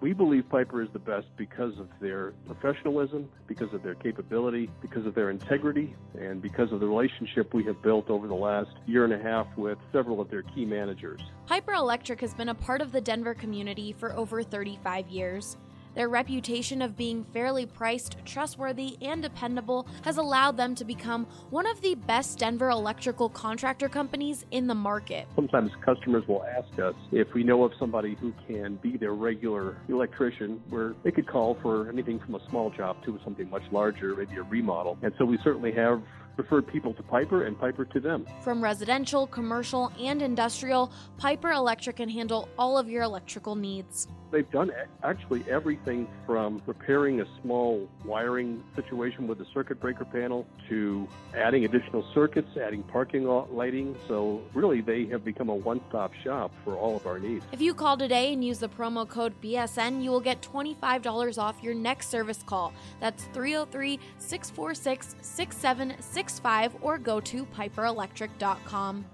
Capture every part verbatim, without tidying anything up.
We believe Piper is the best because of their professionalism, because of their capability, because of their integrity, and because of the relationship we have built over the last year and a half with several of their key managers. Piper Electric has been a part of the Denver community for over thirty-five years. Their reputation of being fairly priced, trustworthy, and dependable has allowed them to become one of the best Denver electrical contractor companies in the market. Sometimes customers will ask us if we know of somebody who can be their regular electrician, where they could call for anything from a small job to something much larger, maybe a remodel. And so we certainly have referred people to Piper and Piper to them. From residential, commercial, and industrial, Piper Electric can handle all of your electrical needs. They've done actually everything from repairing a small wiring situation with a circuit breaker panel to adding additional circuits, adding parking lot lighting. So really, they have become a one-stop shop for all of our needs. If you call today and use the promo code B S N, you will get twenty-five dollars off your next service call. That's three oh three, six four six, six seven six five or go to piper electric dot com.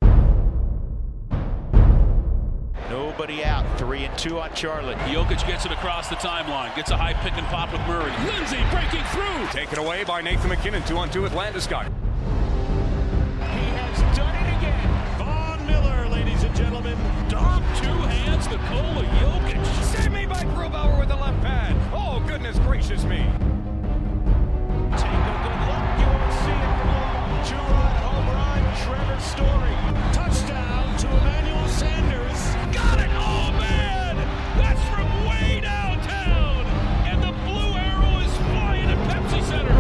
Nobody out. Three and two on Charlotte. Jokic gets it across the timeline. Gets a high pick and pop with Murray. Lindsay breaking through. Taken away by Nathan McKinnon. Two on two with Landeskog. He has done it again. Von Miller, ladies and gentlemen. Dom, two hands, Nikola Jokic. Save me by Grubauer with the left pad. Oh, goodness gracious me. Take a good look. You won't see it for long. Two-run home run. Trevor Story. Touchdown to Emmanuel Sanders. Got it! Oh, man! That's from way downtown! And the blue arrow is flying at Pepsi Center.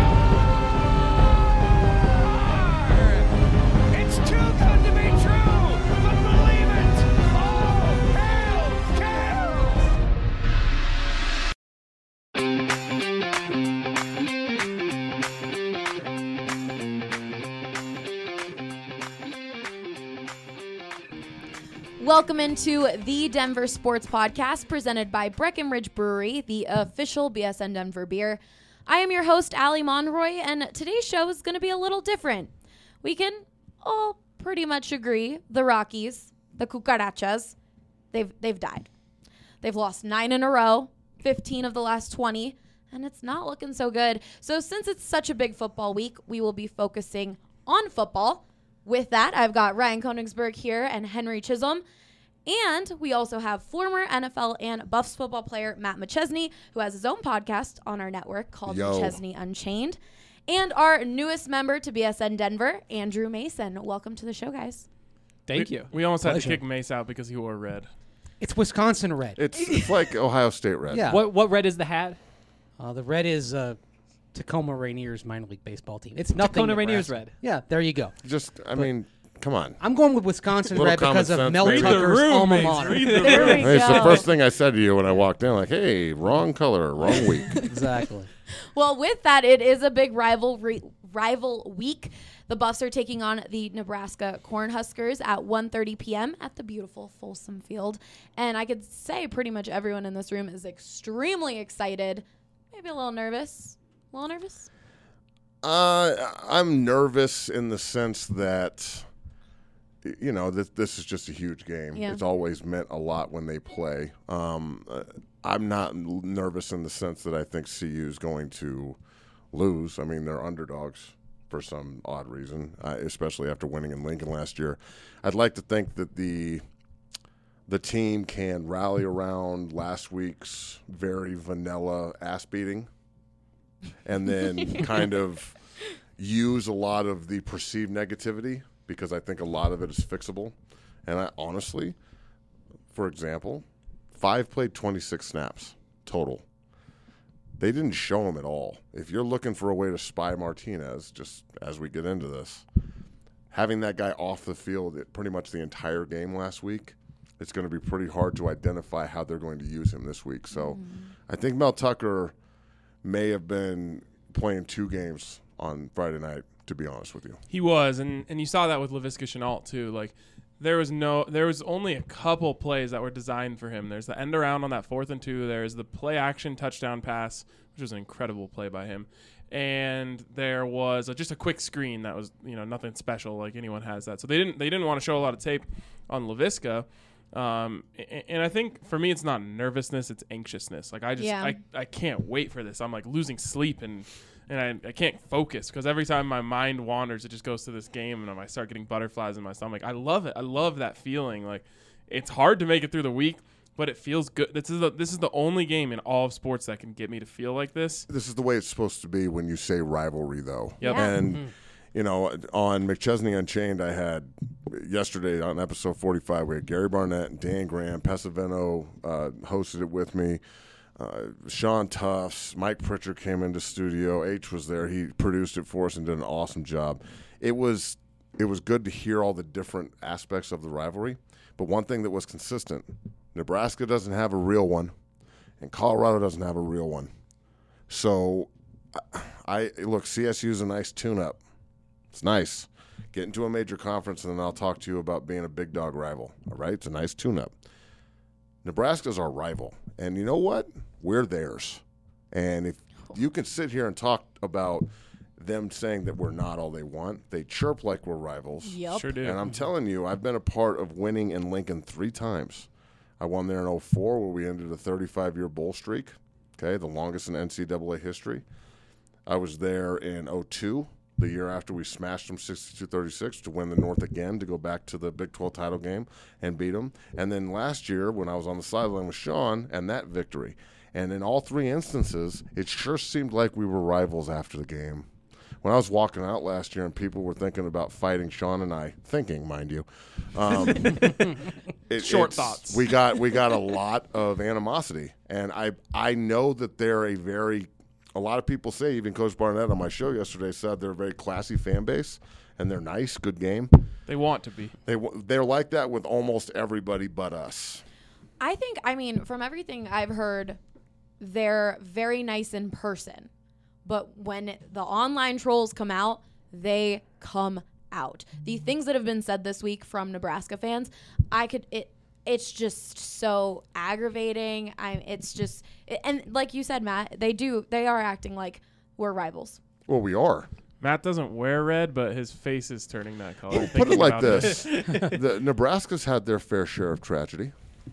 Score! It's too good to be true! But believe it! Oh, hail, hail! Welcome into the Denver Sports Podcast presented by Breckenridge Brewery, the official B S N Denver beer. I am your host, Allie Monroy, and today's show is going to be a little different. We can all pretty much agree the Rockies, the Cucarachas, they've they've died. They've lost nine in a row, fifteen of the last twenty, and it's not looking so good. So since it's such a big football week, we will be focusing on football. With that, I've got Ryan Koenigsberg here and Henry Chisholm. And we also have former N F L and Buffs football player Matt McChesney, who has his own podcast on our network called Yo. McChesney Unchained. And our newest member to B S N Denver, Andrew Mason. Welcome to the show, guys. Thank we, you. We almost Pleasure. had to kick Mace out because he wore red. It's Wisconsin red. It's it's like Ohio State red. Yeah. What what red is the hat? Uh, the red is uh, Tacoma Rainiers minor league baseball team. It's nothing Tacoma Nebraska. Rainiers red. Yeah, there you go. Just, I mean, come on. I'm going with Wisconsin Little red common because of sense, Mel maybe. Read the Tucker's room, alma Mace. mater. Read the There we room. Hey, it's the go. first thing I said to you when I walked in. Like, hey, wrong color, wrong week. Exactly. Well, with that, it is a big rivalry rival week. The Buffs are taking on the Nebraska Cornhuskers at one thirty p.m. at the beautiful Folsom Field. And I could say pretty much everyone in this room is extremely excited. Maybe a little nervous. A little nervous? Uh, I'm nervous in the sense that, you know, this this is just a huge game. Yeah. It's always meant a lot when they play. Um, uh, I'm not l- nervous in the sense that I think C U is going to lose. I mean, they're underdogs for some odd reason, uh, especially after winning in Lincoln last year. I'd like to think that the the team can rally around last week's very vanilla ass beating and then kind of use a lot of the perceived negativity, because I think a lot of it is fixable. And I honestly, for example, Five played twenty-six snaps total. They didn't show him at all. If you're looking for a way to spy Martinez, just as we get into this, having that guy off the field at pretty much the entire game last week, it's going to be pretty hard to identify how they're going to use him this week. So mm. I think Mel Tucker may have been playing two games on Friday night, to be honest with you. He was, and, and you saw that with Laviska Shenault too. Like there was no, there was only a couple plays that were designed for him. There's the end around on that fourth and two. There's the play action touchdown pass, which was an incredible play by him. And there was a, just a quick screen that was, you know, nothing special, like anyone has that. So they didn't they didn't want to show a lot of tape on Laviska. Um, and, and I think for me, it's not nervousness; it's anxiousness. Like I just, Yeah. I, I can't wait for this. I'm like losing sleep and and I, I can't focus because every time my mind wanders, it just goes to this game, and I start getting butterflies in my stomach. I love it. I love that feeling. Like it's hard to make it through the week, but it feels good. This is the, this is the only game in all of sports that can get me to feel like this. This is the way it's supposed to be when you say rivalry, though. Yep. Yeah. And, Mm-hmm. you know, on McChesney Unchained, I had yesterday on episode forty-five, we had Gary Barnett and Dan Graham. Pesavento uh, hosted it with me. Uh, Sean Tufts, Mike Pritchard came into studio. H was there. He produced it for us and did an awesome job. It was it was good to hear all the different aspects of the rivalry. But one thing that was consistent, Nebraska doesn't have a real one, and Colorado doesn't have a real one. So, I look, C S U is a nice tune-up. It's nice. Get into a major conference, and then I'll talk to you about being a big dog rival. All right? It's a nice tune-up. Nebraska's our rival. And you know what? We're theirs. And if you can sit here and talk about them saying that we're not all they want, they chirp like we're rivals. Yep. Sure do. And I'm telling you, I've been a part of winning in Lincoln three times. I won there in oh four where we ended a thirty-five-year bowl streak, okay, the longest in N C double A history. I was there in oh two, the year after we smashed them sixty-two thirty-six to win the North again, to go back to the Big twelve title game and beat them. And then last year when I was on the sideline with Sean and that victory. And in all three instances, it sure seemed like we were rivals after the game. When I was walking out last year and people were thinking about fighting Sean and I, thinking, mind you, um, it, Short it's- thoughts. We got we got a lot of animosity, and I I know that they're a very a lot of people say, even Coach Barnett on my show yesterday said they're a very classy fan base, and they're nice, good game. They want to be. They w- they're like that with almost everybody but us. I think, I mean, from everything I've heard, they're very nice in person. But when the online trolls come out, they come out. The things that have been said this week from Nebraska fans, I could, it, it's just so aggravating. I'm, it's just, and like you said, Matt, they do, they are acting like we're rivals. Well, we are. Matt doesn't wear red, but his face is turning that color. Put it thinking like about this: the Nebraska's had their fair share of tragedy.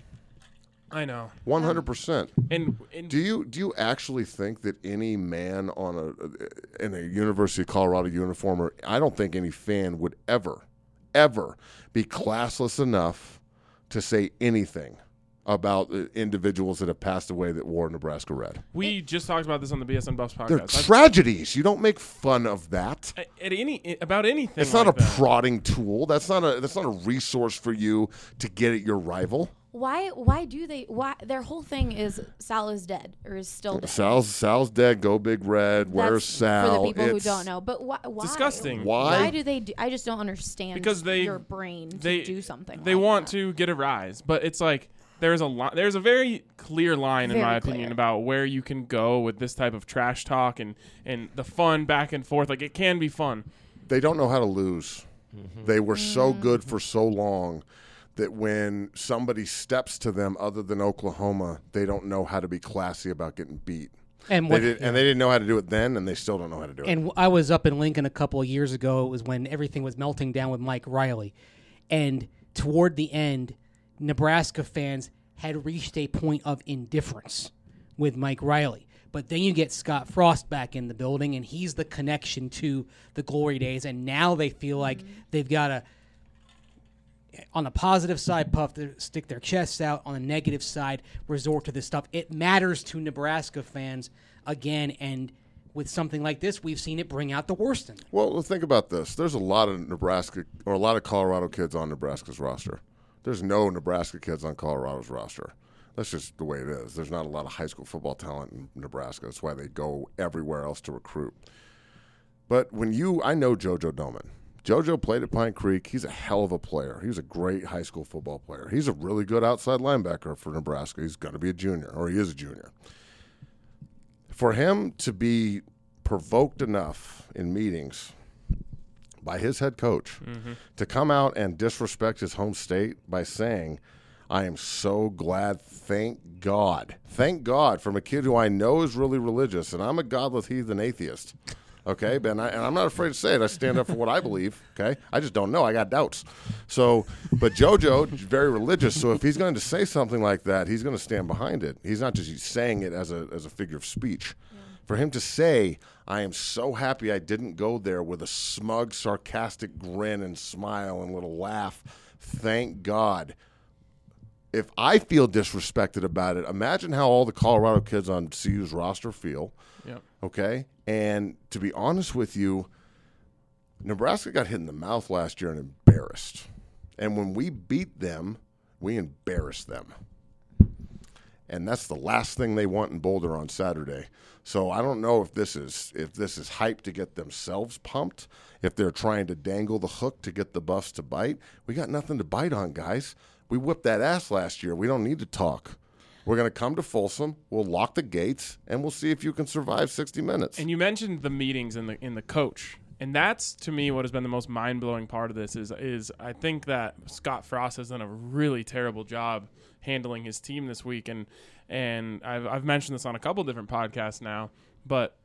I know. One hundred percent. And, and Do you do you actually think that any man on a in a University of Colorado uniform, or I don't think any fan would ever, ever be classless enough to say anything about uh, individuals that have passed away that wore Nebraska red? we just talked about this on the B S N Buffs They're podcast. tragedies. You don't make fun of that. I- at any about anything. It's not like a that. prodding tool. That's not a that's not a resource for you to get at your rival. Why, why do they, why, their whole thing is Sal is dead or is still dead. Sal's Sal's dead. Go Big Red. Where's That's Sal? For the people who It's- don't know. But why? why disgusting. Why? Why do they do? I just don't understand Because they your brain to they do something. They like want that. to get a rise, but it's like there's a li- there's a very clear line in Very my clear. opinion about where you can go with this type of trash talk and and the fun back and forth. Like it can be fun. They don't know how to lose. They were so good for so long that when somebody steps to them other than Oklahoma, they don't know how to be classy about getting beat. And They what, did, and they didn't know how to do it then, and they still don't know how to do it. And I was up in Lincoln a couple of years ago. It was when everything was melting down with Mike Riley. And toward the end, Nebraska fans had reached a point of indifference with Mike Riley. But then you get Scott Frost back in the building, and he's the connection to the glory days. And now they feel like they've got to, on the positive side, puff their, stick their chests out. On the negative side, resort to this stuff. It matters to Nebraska fans again, and with something like this, we've seen it bring out the worst in them. Well, think about this. There's a lot of Nebraska or a lot of Colorado kids on Nebraska's roster. There's no Nebraska kids on Colorado's roster. That's just the way it is. There's not a lot of high school football talent in Nebraska. That's why they go everywhere else to recruit. But when you, I know JoJo Doman. JoJo played at Pine Creek. He's a hell of a player. He was a great high school football player. He's a really good outside linebacker for Nebraska. He's going to be a junior, or he is a junior. For him to be provoked enough in meetings by his head coach Mm-hmm. to come out and disrespect his home state by saying, I am so glad, thank God, thank God, from a kid who I know is really religious, and I'm a godless heathen atheist. Okay, Ben, I, and I'm not afraid to say it. I stand up for what I believe. Okay, I just don't know. I got doubts. So, but JoJo is very religious. So if he's going to say something like that, he's going to stand behind it. He's not just saying it as a as a figure of speech. Yeah. For him to say, "I am so happy I didn't go there," with a smug, sarcastic grin and smile and little laugh. Thank God. If I feel disrespected about it, imagine how all the Colorado kids on C U's roster feel. Yep. Okay? And to be honest with you, Nebraska got hit in the mouth last year and embarrassed. And when we beat them, we embarrassed them. And that's the last thing they want in Boulder on Saturday. So I don't know if this is if this is hype to get themselves pumped, if they're trying to dangle the hook to get the Buffs to bite. We got nothing to bite on, guys. We whipped that ass last year. We don't need to talk. We're going to come to Folsom. We'll lock the gates, and we'll see if you can survive sixty minutes. And you mentioned the meetings in the in the coach, and that's to me what has been the most mind blowing part of this is is I think that Scott Frost has done a really terrible job handling his team this week, and and I've I've mentioned this on a couple different podcasts now, but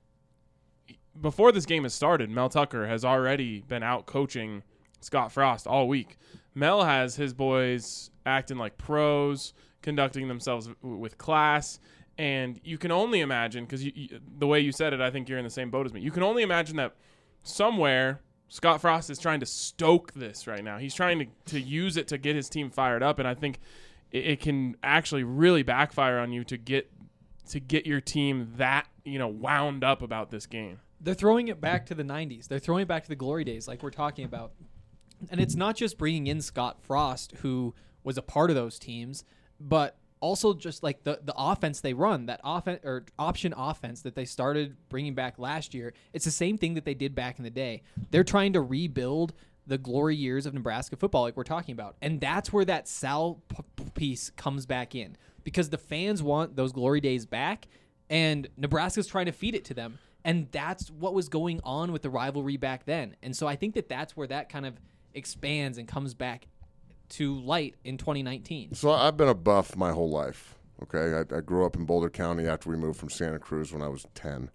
before this game has started, Mel Tucker has already been out coaching Scott Frost all week. Mel has his boys acting like pros, conducting themselves w- with class, and you can only imagine, because the way you said it, I think you're in the same boat as me. You can only imagine that somewhere Scott Frost is trying to stoke this right now. He's trying to, to use it to get his team fired up, and I think it, it can actually really backfire on you to get to get your team that, you know, wound up about this game. They're throwing it back to the nineties. They're throwing it back to the glory days like we're talking about. And it's not just bringing in Scott Frost, who was a part of those teams, but also just like the, the offense they run, that offense or option offense that they started bringing back last year. It's the same thing that they did back in the day. They're trying to rebuild the glory years of Nebraska football like we're talking about. And that's where that Sal p- piece comes back in, because the fans want those glory days back, and Nebraska's trying to feed it to them. And that's what was going on with the rivalry back then. And so I think that that's where that kind of expands and comes back to light in twenty nineteen. So I've been a Buff my whole life. Okay, I, I grew up in Boulder County after we moved from Santa Cruz when I was ten.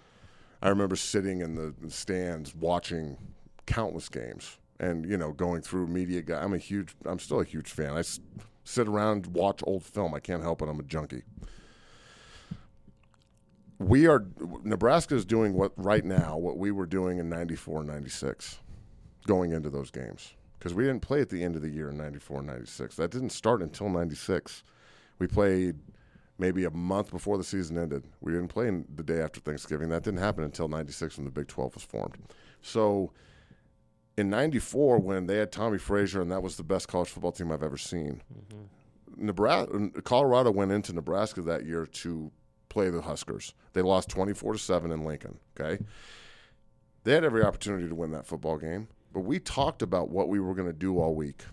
I remember sitting in the stands watching countless games, and you know, going through media. Guy, I'm a huge. I'm still a huge fan. I s- sit around and watch old film. I can't help it. I'm a junkie. We are Nebraska is doing what right now what we were doing in ninety-four and ninety-six, going into those games, because we didn't play at the end of the year in ninety-four and ninety-six. That didn't start until ninety-six. We played maybe a month before the season ended. We didn't play in the day after Thanksgiving. That didn't happen until ninety-six when the Big twelve was formed. So in ninety-four, when they had Tommy Frazier, and that was the best college football team I've ever seen, mm-hmm. Nebraska, Colorado went into Nebraska that year to play the Huskers. They lost twenty-four to seven in Lincoln, okay? They had every opportunity to win that football game, but we talked about what we were going to do all week.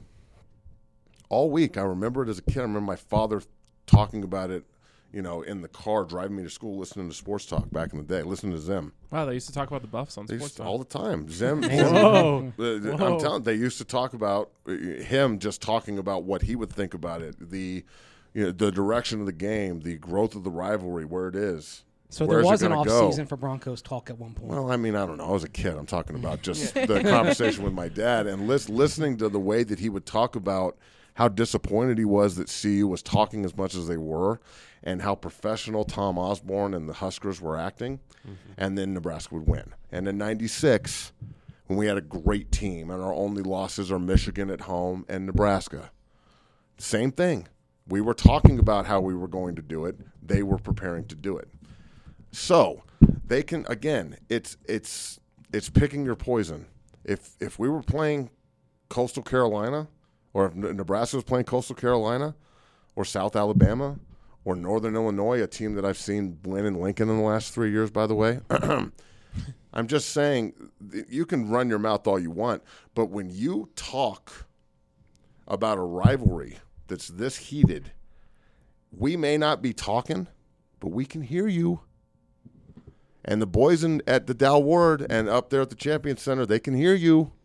All week, I remember it as a kid. I remember my father talking about it, you know, in the car, driving me to school, listening to sports talk back in the day, listening to Zim. Wow, they used to talk about the Buffs on They sports used to, talk. all the time. Zim. Whoa. uh, I'm telling. They used to talk about uh, him just talking about what he would think about it, the, you know, the direction of the game, the growth of the rivalry, where it is. So Where's there was it an gonna off go? season for Broncos talk at one point. Well, I mean, I don't know. I was a kid. I'm talking about just the conversation with my dad and lis- listening to the way that he would talk about how disappointed he was that C U was talking as much as they were, and how professional Tom Osborne and the Huskers were acting, mm-hmm. and then Nebraska would win. And in ninety-six, when we had a great team, and our only losses are Michigan at home and Nebraska, same thing. We were talking about how we were going to do it. They were preparing to do it. So they can, again, it's it's it's picking your poison. If if we were playing Coastal Carolina, or if Nebraska was playing Coastal Carolina, or South Alabama, or Northern Illinois, a team that I've seen win in Lincoln in the last three years, by the way, I'm just saying, you can run your mouth all you want, but when you talk about a rivalry that's this heated, we may not be talking, but we can hear you. And the boys in, at the Dow Ward and up there at the Champion Center, they can hear you.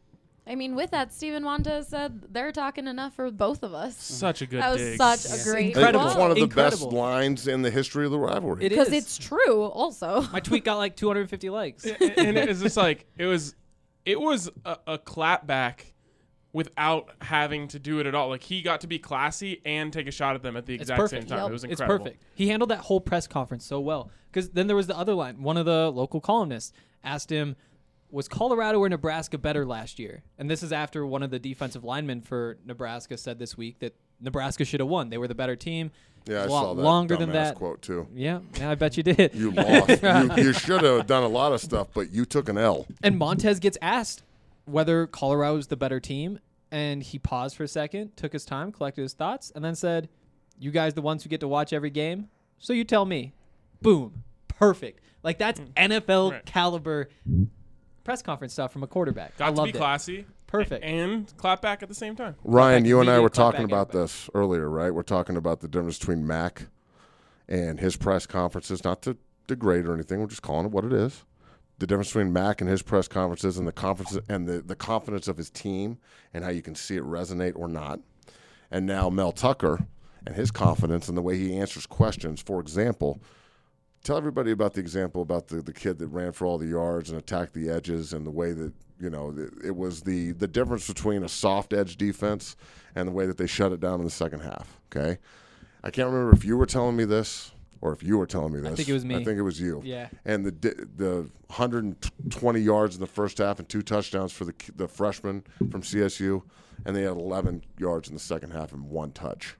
I mean, with that, Steven Montez said they're talking enough for both of us. Such a good That was dig. such Yes. a great Incredible. It's one of the Incredible. best lines in the history of the rivalry. It Because is. it's true also. My tweet got like two hundred fifty likes. and, and it was just like it was it was a, a clap back without having to do it at all. Like he got to be classy and take a shot at them at the It's exact perfect. same time. Yep. It was It's incredible. perfect. He handled that whole press conference so well. Because then there was the other line. One of the local columnists asked him, was Colorado or Nebraska better last year? And this is after one of the defensive linemen for Nebraska said this week that Nebraska should have won. They were the better team. Yeah, I A lot saw that longer than dumbass that. quote too. Yeah, yeah, I bet you did. You lost. you you should have done a lot of stuff, but you took an L. And Montez gets asked whether Colorado is the better team, and he paused for a second, took his time, collected his thoughts, and then said, "You guys the ones who get to watch every game, so you tell me." Boom. Perfect. Like that's N F L Right. caliber press conference stuff from a quarterback. Got I to loved be it. classy. Perfect. And clap back at the same time. Ryan, back you and I immediate, were clap talking back about everybody. this earlier, right? We're talking about the difference between Mac and his press conferences, not to degrade or anything. We're just calling it what it is. The difference between Mac and his press conferences and the conference and the, the confidence of his team and how you can see it resonate or not. And now Mel Tucker and his confidence and the way he answers questions. For example, tell everybody about the example about the, the kid that ran for all the yards and attacked the edges and the way that, you know, it, it was the, the difference between a soft edge defense and the way that they shut it down in the second half, okay? I can't remember if you were telling me this or if you were telling me this. think it was me. I think it was you. Yeah. And the di- the one hundred twenty yards in the first half and two touchdowns for the the freshman from C S U, and they had eleven yards in the second half and one touch.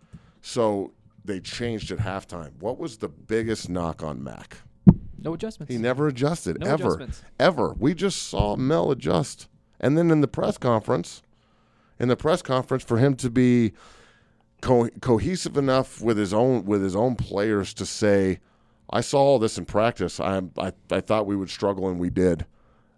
So they changed at halftime. What was the biggest knock on Mac? No adjustments. He never adjusted, No ever. adjustments. Ever. We just saw Mel adjust. And then in the press conference, in the press conference, for him to be co- cohesive enough with his own with his own players to say, I saw all this in practice. I, I, I thought we would struggle, and we did.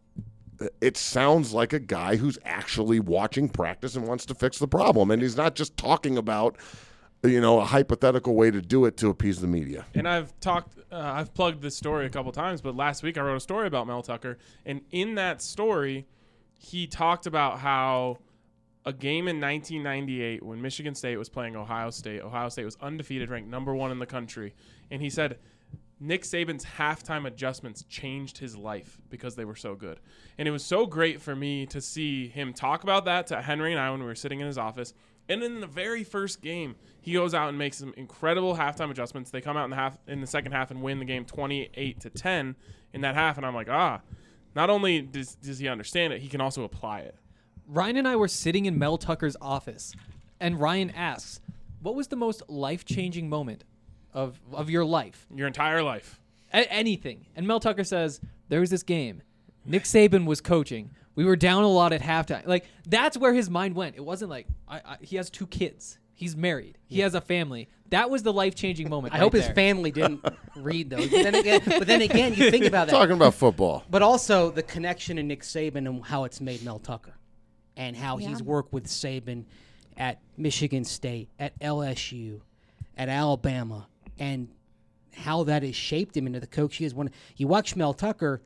It sounds like a guy who's actually watching practice and wants to fix the problem. And he's not just talking about, you know, a hypothetical way to do it to appease the media. And I've talked, uh, I've plugged this story a couple times, but last week I wrote a story about Mel Tucker. And in that story, he talked about how a game in nineteen ninety-eight when Michigan State was playing Ohio State, Ohio State was undefeated, ranked number one in the country. And he said Nick Saban's halftime adjustments changed his life because they were so good. And it was so great for me to see him talk about that to Henry and I when we were sitting in his office. And in the very first game, he goes out and makes some incredible halftime adjustments. They come out in the half in the second half and win the game twenty-eight to ten in that half. And I'm like, ah, not only does, does he understand it, he can also apply it. Ryan and I were sitting in Mel Tucker's office, and Ryan asks, "What was the most life-changing moment of of your life? Your entire life." A- anything?" And Mel Tucker says, "There was this game. Nick Saban was coaching. We were down a lot at halftime." Like that's where his mind went. It wasn't like I, I, he has two kids. He's married. He has a family. That was the life-changing moment. I right hope his there. family didn't read those. But then again, but then again, you think about that. Talking about football. But also the connection to Nick Saban and how it's made Mel Tucker, and how Yeah. he's worked with Saban at Michigan State, at L S U, at Alabama, and how that has shaped him into the coach he is. When you watch Mel Tucker,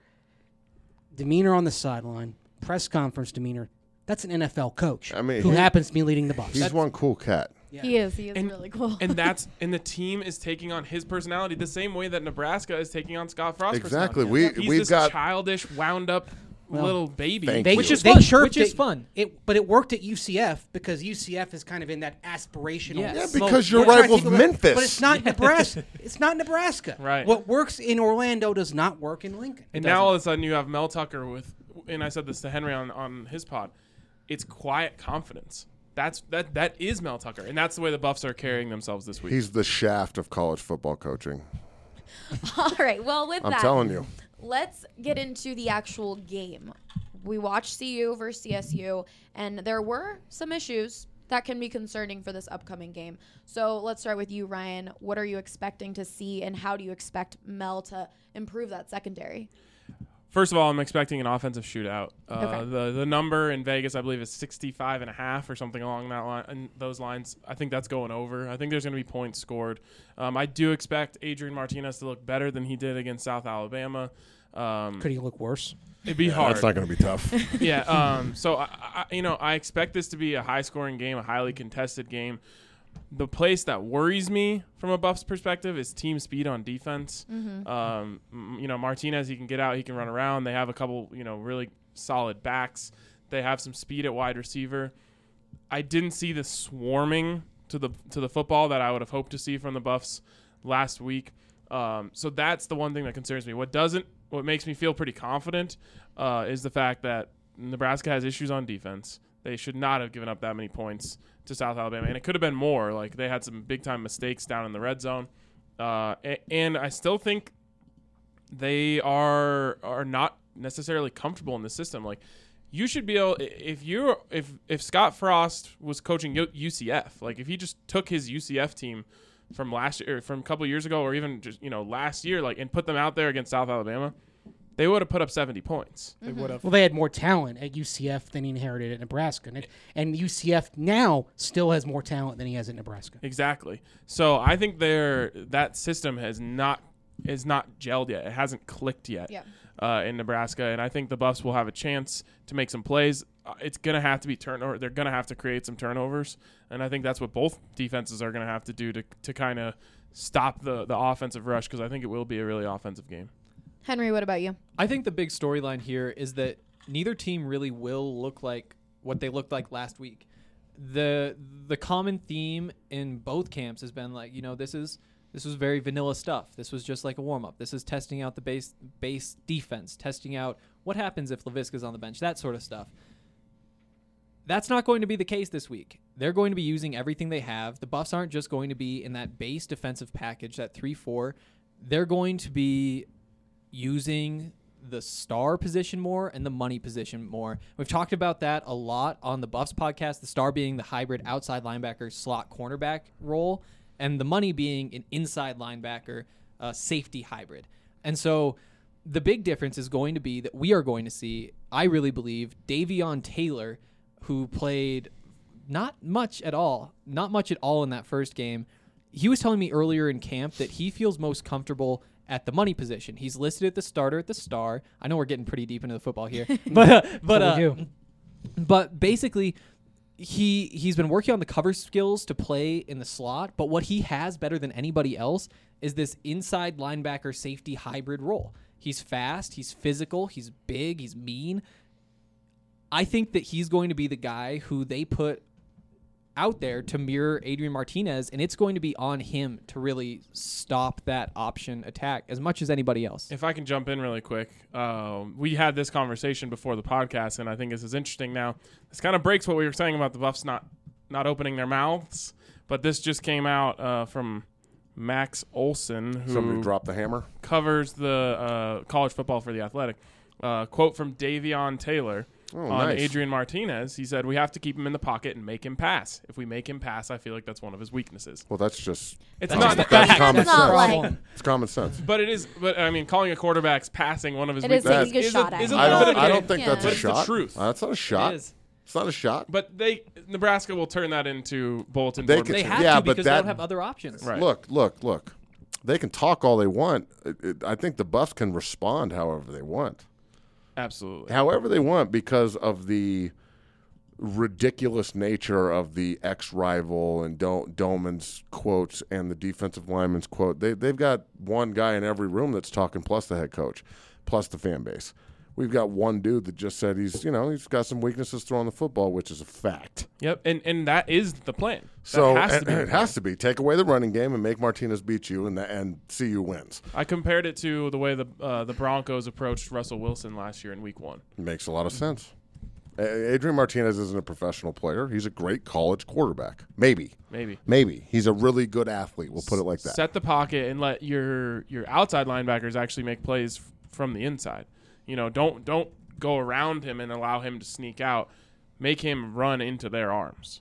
demeanor on the sideline, press conference demeanor, that's an N F L coach I mean, who he- happens to be leading the Bucs. He's one cool cat. He is. He is And- really cool. And that's and the team is taking on his personality the same way that Nebraska is taking on Scott Frost's Exactly. personality. We- He's we've this got- childish, wound up little baby. Thank They, you. Which is they fun, chirped which is it- fun. It, but it worked at U C F because U C F is kind of in that aspirational. Yeah. Yeah, smoke. because your We're trying to rival's think of it, Memphis. but it's not Nebraska. It's not Nebraska. Right. What works in Orlando does not work in Lincoln. And now all of a sudden you have Mel Tucker with, and I said this to Henry on, on his pod, it's quiet confidence. That's that that is Mel Tucker, and that's the way the Buffs are carrying themselves this week. He's the shaft of college football coaching. All right. Well, with I'm that, telling you. let's get into the actual game. We watched C U versus C S U, and there were some issues that can be concerning for this upcoming game. So let's start with you, Ryan. What are you expecting to see, and how do you expect Mel to improve that secondary? First of all, I'm expecting an offensive shootout. Uh, Okay. The the number in Vegas, I believe, is sixty-five and a half or something along that line. And those lines, I think that's going over. I think there's going to be points scored. Um, I do expect Adrian Martinez to look better than he did against South Alabama. Um, Could he look worse? It'd be hard. That's not going to be tough. yeah. Um, so I, I, you know, I expect this to be a high-scoring game, a highly contested game. The place that worries me from a Buffs perspective is team speed on defense. Mm-hmm. Um, m- you know, Martinez, he can get out, he can run around. They have a couple, you know, really solid backs. They have some speed at wide receiver. I didn't see the swarming to the to the football that I would have hoped to see from the Buffs last week. Um, so that's the one thing that concerns me. What doesn't, what makes me feel pretty confident uh, is the fact that Nebraska has issues on defense. They should not have given up that many points to South Alabama, and it could have been more. Like, they had some big-time mistakes down in the red zone. Uh, and, and I still think they are are not necessarily comfortable in the system. Like, you should be able, if you're if if Scott Frost was coaching U C F, like if he just took his U C F team from last year, or from a couple of years ago, or even just, you know, last year, like, and put them out there against South Alabama, they would have put up seventy points. They would have. Well, they had more talent at U C F than he inherited at Nebraska. And, it, and U C F now still has more talent than he has at Nebraska. Exactly. So I think they're, that system has not is not gelled yet. It hasn't clicked yet Yeah. uh, in Nebraska, and I think the Buffs will have a chance to make some plays. Uh, it's going to have to be turnover. They're going to have to create some turnovers, and I think that's what both defenses are going to have to do to to kind of stop the, the offensive rush, because I think it will be a really offensive game. Henry, what about you? I think the big storyline here is that neither team really will look like what they looked like last week. The the common theme in both camps has been like, you know, this is this was very vanilla stuff. This was just like a warm up. This is testing out the base base defense, testing out what happens if Laviska's on the bench, that sort of stuff. That's not going to be the case this week. They're going to be using everything they have. The Buffs aren't just going to be in that base defensive package, that three four. They're going to be using the star position more and the money position more. We've talked about that a lot on the Buffs podcast, the star being the hybrid outside linebacker slot cornerback role, and the money being an inside linebacker uh, safety hybrid. And so the big difference is going to be that we are going to see, I really believe, Davion Taylor, who played not much at all, not much at all in that first game. He was telling me earlier in camp that he feels most comfortable at the money position. He's listed at the starter at the star. I know we're getting pretty deep into the football here, but uh, but uh, but basically, he he's been working on the cover skills to play in the slot. But what he has better than anybody else is this inside linebacker safety hybrid role. He's fast, he's physical, he's big, he's mean. I think that he's going to be the guy who they put out there to mirror Adrian Martinez, and it's going to be on him to really stop that option attack as much as anybody else. If I can jump in really quick, um, we had this conversation before the podcast, and I think this is interesting now. This kind of breaks what we were saying about the Buffs not not opening their mouths, but this just came out uh, from Max Olson, who Somebody dropped the hammer. covers the uh, college football for The Athletic. Uh, quote from Davion Taylor. Oh, on nice. Adrian Martinez, he said, "We have to keep him in the pocket and make him pass. If we make him pass, I feel like that's one of his weaknesses." Well, that's just It's That's not just that that's common It's not sense. like- It's common sense. but it is. But I mean, calling a quarterback's passing one of his It is weaknesses taking a is shot at is him. I little don't. bit of I a- don't think Yeah. that's But a it's the shot. truth. Uh, that's not a shot. It is. It's not a shot. But they Nebraska will turn that into bulletin They board could- They material. have Yeah, to but because that- they don't have other options. Right. Look, look, look. They can talk all they want. It, it, I think the Buffs can respond however they want. Absolutely. However they want, because of the ridiculous nature of the ex-rival and Do- Doman's quotes and the defensive lineman's quote. They, they've got one guy in every room that's talking, plus the head coach, plus the fan base. We've got one dude that just said he's, you know, he's got some weaknesses throwing the football, which is a fact. Yep, and and that is the plan. That So has to and- be the it plan. has to be. Take away the running game and make Martinez beat you, and the, and C U wins. I compared it to the way the uh, the Broncos approached Russell Wilson last year in Week One. It makes a lot of sense. A- Adrian Martinez isn't a professional player. He's a great college quarterback. Maybe. Maybe. Maybe. He's a really good athlete. We'll put it like that. Set the pocket and let your your outside linebackers actually make plays f- from the inside. You know, don't don't go around him and allow him to sneak out. Make him run into their arms.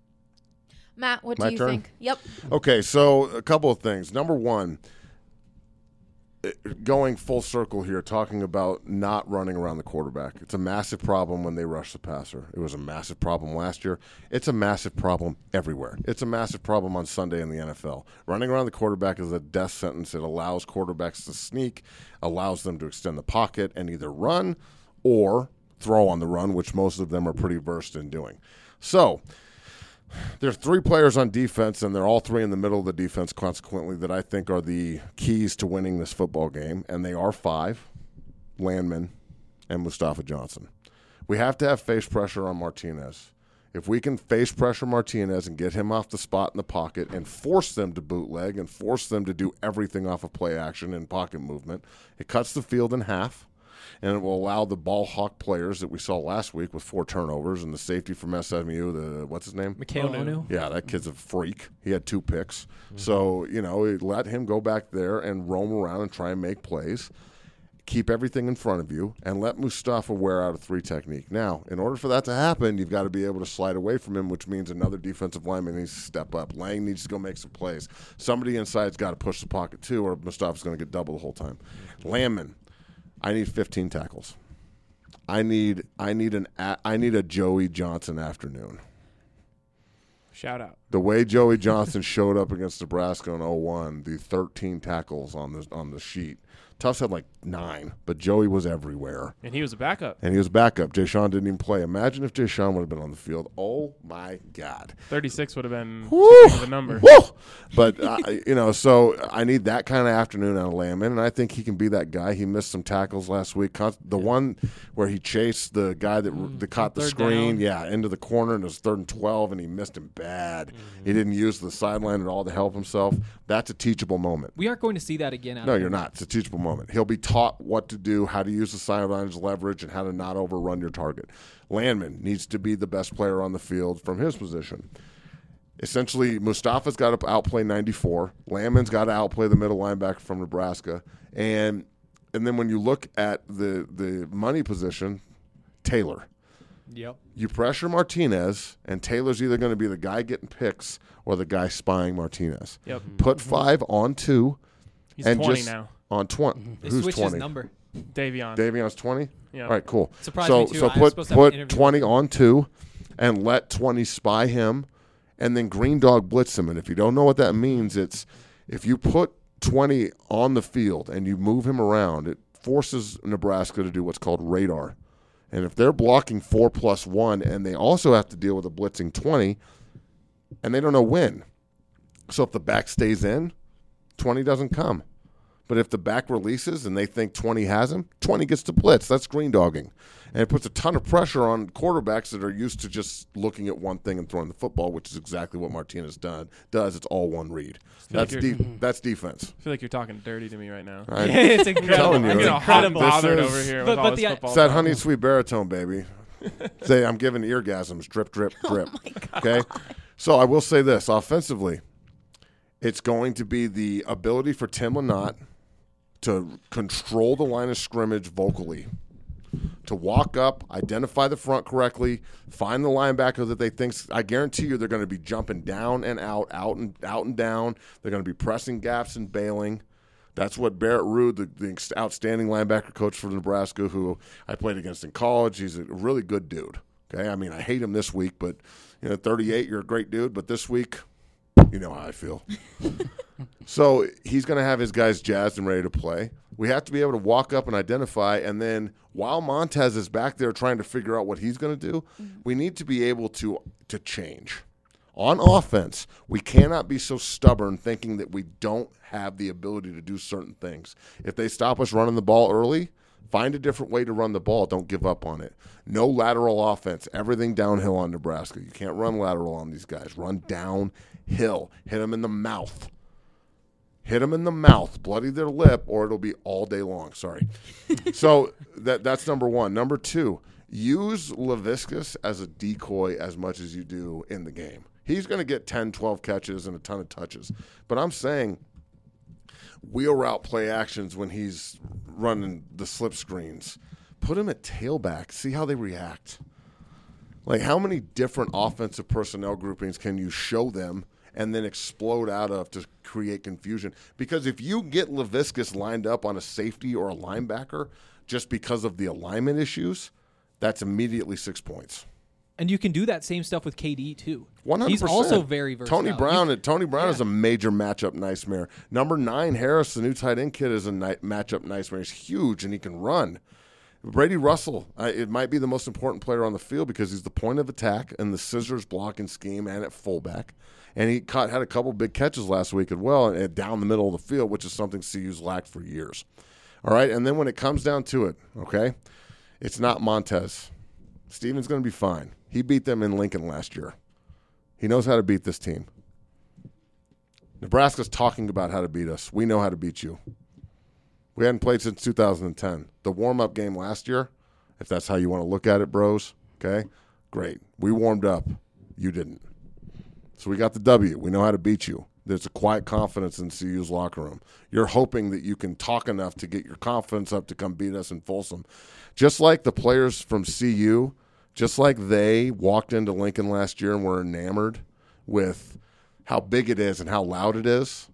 Matt, what My do you turn? think? Yep. Okay, so a couple of things. Number one, going full circle here, talking about not running around the quarterback. It's a massive problem when they rush the passer. It was a massive problem last year. It's a massive problem everywhere. It's a massive problem on Sunday in the N F L. Running around the quarterback is a death sentence. It allows quarterbacks to sneak, allows them to extend the pocket and either run or throw on the run, which most of them are pretty versed in doing. So there's three players on defense, and they're all three in the middle of the defense, consequently, that I think are the keys to winning this football game, and they are five, Landman and Mustafa Johnson. We have to have face pressure on Martinez. If we can face pressure Martinez and get him off the spot in the pocket and force them to bootleg and force them to do everything off of play action and pocket movement, it cuts the field in half. And it will allow the ball hawk players that we saw last week with four turnovers and the safety from S M U, the what's his name? Mikhail Onu. Yeah, that kid's a freak. He had two picks. Mm-hmm. So, you know, let him go back there and roam around and try and make plays. Keep everything in front of you and let Mustafa wear out a three technique. Now, in order for that to happen, you've got to be able to slide away from him, which means another defensive lineman needs to step up. Lang needs to go make some plays. Somebody inside's got to push the pocket too, or Mustafa's going to get double the whole time. Landman. I need fifteen tackles. I need I need an I need a Joey Johnson afternoon. Shout out. The way Joey Johnson showed up against Nebraska in oh one, the thirteen tackles on the on the sheet. Tufts had like nine, but Joey was everywhere. And he was a backup. And he was backup. Jay Sean didn't even play. Imagine if Jay Sean would have been on the field. Oh, my God. thirty-six would have been Woo! the number. Woo! But, uh, you know, so I need that kind of afternoon out of Landman, and I think he can be that guy. He missed some tackles last week. The one where he chased the guy that, mm, that caught the screen, down. yeah, into the corner, and it was third and twelve, and he missed him bad. Mm-hmm. He didn't use the sideline at all to help himself. That's a teachable moment. We aren't going to see that again. No, you're not. It's a teachable moment. He'll be taught what to do, how to use the sideline as leverage, and how to not overrun your target. Landman needs to be the best player on the field from his position. Essentially, Mustafa's got to outplay ninety-four. Landman's got to outplay the middle linebacker from Nebraska. And and then when you look at the the money position, Taylor. Yep. You pressure Martinez, and Taylor's either going to be the guy getting picks or the guy spying Martinez. Yep. Put five on two. He's and twenty just now. On twenty. They Who's switched twenty? his number. Davion. Davion's twenty? Yeah. All right, cool. Surprised so me too. so I was put supposed to have an put interview twenty with him. on two and let twenty spy him, and then Green Dog blitz him. And if you don't know what that means, it's if you put twenty on the field and you move him around, it forces Nebraska to do what's called radar. And if they're blocking four plus one and they also have to deal with a blitzing twenty, and they don't know when. So if the back stays in, twenty doesn't come. But if the back releases and they think twenty has him, twenty gets to blitz. That's green dogging. And it puts a ton of pressure on quarterbacks that are used to just looking at one thing and throwing the football, which is exactly what Martinez done, does. It's all one read. That's like de- that's defense. I feel like you're talking dirty to me right now. I, It's incredible. telling you. I'm getting It's hot and bothered is- over here But- with but all this the- football It's that talk. honey sweet baritone, baby. Say, I'm giving eargasms. Drip, drip, drip. Okay? So I will say this. Offensively, it's going to be the ability for Tim Lynott to control the line of scrimmage vocally, to walk up, identify the front correctly, find the linebacker that they think. I guarantee you they're going to be jumping down and out, out and out and down. They're going to be pressing gaps and bailing. That's what Barrett Ruud, the, the outstanding linebacker coach for Nebraska, who I played against in college, he's a really good dude. Okay, I mean, I hate him this week, but you know, thirty-eight, you're a great dude. But this week, you know how I feel. So he's going to have his guys jazzed and ready to play. We have to be able to walk up and identify, and then while Montez is back there trying to figure out what he's going to do, mm-hmm. we need to be able to to change. On offense, we cannot be so stubborn thinking that we don't have the ability to do certain things. If they stop us running the ball early, find a different way to run the ball. Don't give up on it. No lateral offense. Everything downhill on Nebraska. You can't run lateral on these guys. Run downhill. Hit them in the mouth. Hit them in the mouth, bloody their lip, or it'll be all day long. Sorry. So that that's number one. Number two, use Laviscus as a decoy as much as you do in the game. He's going to get ten, twelve catches and a ton of touches. But I'm saying wheel route play actions when he's running the slip screens. Put him at tailback. See how they react. Like, how many different offensive personnel groupings can you show them and then explode out of to create confusion. Because if you get Laviskis lined up on a safety or a linebacker just because of the alignment issues, that's immediately six points. And you can do that same stuff with K D too. one hundred percent. He's also very versatile. Tony Brown. You, Tony Brown yeah. is a major matchup nightmare. Number nine, Harris, the new tight end kid, is a night, matchup nightmare. He's huge and he can run. Brady Russell, uh, it might be the most important player on the field because he's the point of attack and the scissors blocking scheme and at fullback. And he caught, had a couple big catches last week as well and down the middle of the field, which is something C U's lacked for years. All right, and then when it comes down to it, okay, it's not Montez. Steven's going to be fine. He beat them in Lincoln last year. He knows how to beat this team. Nebraska's talking about how to beat us. We know how to beat you. We hadn't played since two thousand ten. The warm-up game last year, if that's how you want to look at it, bros, okay, great. We warmed up. You didn't. So we got the W. We know how to beat you. There's a quiet confidence in C U's locker room. You're hoping that you can talk enough to get your confidence up to come beat us in Folsom. Just like the players from C U, just like they walked into Lincoln last year and were enamored with how big it is and how loud it is,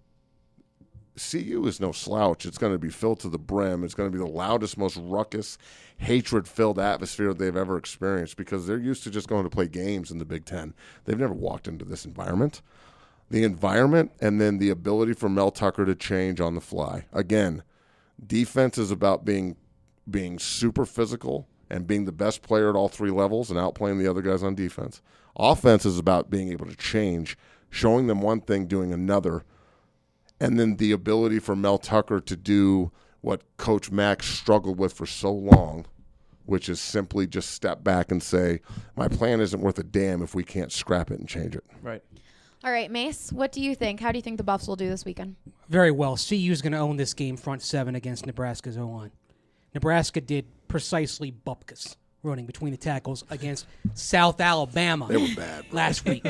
C U is no slouch. It's going to be filled to the brim. It's going to be the loudest, most ruckus, hatred-filled atmosphere they've ever experienced because they're used to just going to play games in the Big Ten. They've never walked into this environment. The environment and then the ability for Mel Tucker to change on the fly. Again, defense is about being being super physical and being the best player at all three levels and outplaying the other guys on defense. Offense is about being able to change, showing them one thing, doing another, and then the ability for Mel Tucker to do what Coach Mack struggled with for so long, which is simply just step back and say, my plan isn't worth a damn if we can't scrap it and change it. Right. All right, Mace, what do you think? How do you think the Buffs will do this weekend? Very well. C U's going to own this game front seven against Nebraska's O-line. Nebraska did precisely bupkis running between the tackles against South Alabama. They were bad, bro. Last week.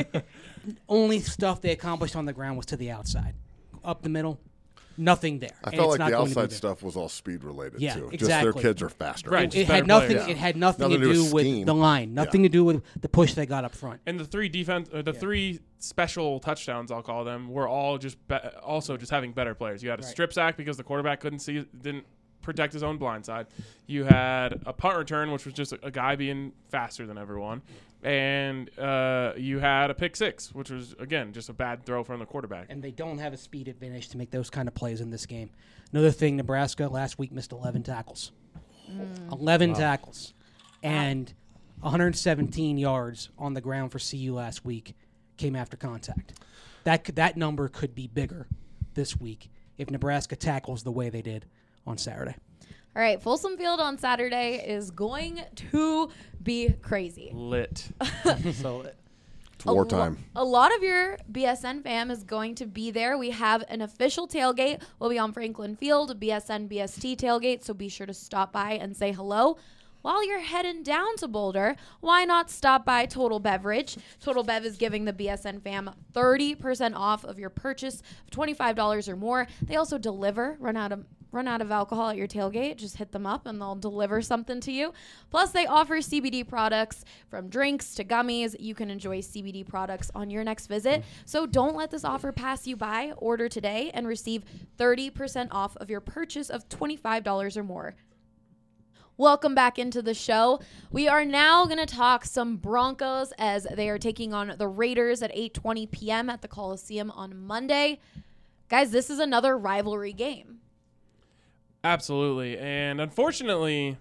Only stuff they accomplished on the ground was to the outside. Up the middle, nothing there. I And felt it's like not the going to be outside there. stuff was all speed related Yeah, too. exactly. Just their kids are faster. Right. It, Just it had better nothing. players. It had nothing, Nothing to to do do with with scheme. the line. Nothing Yeah. to do with the push they got up front. And the three defense, or the three special touchdowns, I'll call them, were all just be- also just having better players. You had a Right. strip sack because the quarterback couldn't see, didn't protect his own blind side. You had a punt return, which was just a, a guy being faster than everyone, and uh, you had a pick six, which was again just a bad throw from the quarterback. And they don't have a speed advantage to make those kind of plays in this game. Another thing, Nebraska last week missed eleven tackles. eleven tackles. And one hundred seventeen yards on the ground for C U last week came after contact. That could, that number could be bigger this week if Nebraska tackles the way they did on Saturday. All right, Folsom Field on Saturday is going to be crazy. Lit. So It's wartime. A, lo- a lot of your B S N fam is going to be there. We have an official tailgate. We'll be on Franklin Field, B S N B S T tailgate, so be sure to stop by and say hello. While you're heading down to Boulder, why not stop by Total Beverage? Total Bev is giving the B S N fam thirty percent off of your purchase of twenty-five dollars or more. They also deliver, run out of run out of alcohol at your tailgate, just hit them up and they'll deliver something to you. Plus, they offer C B D products from drinks to gummies. You can enjoy C B D products on your next visit. So don't let this offer pass you by. Order today and receive thirty percent off of your purchase of twenty-five dollars or more. Welcome back into the show. We are now going to talk some Broncos as they are taking on the Raiders at eight twenty p.m. at the Coliseum on Monday. Guys, this is another rivalry game. Absolutely, and unfortunately,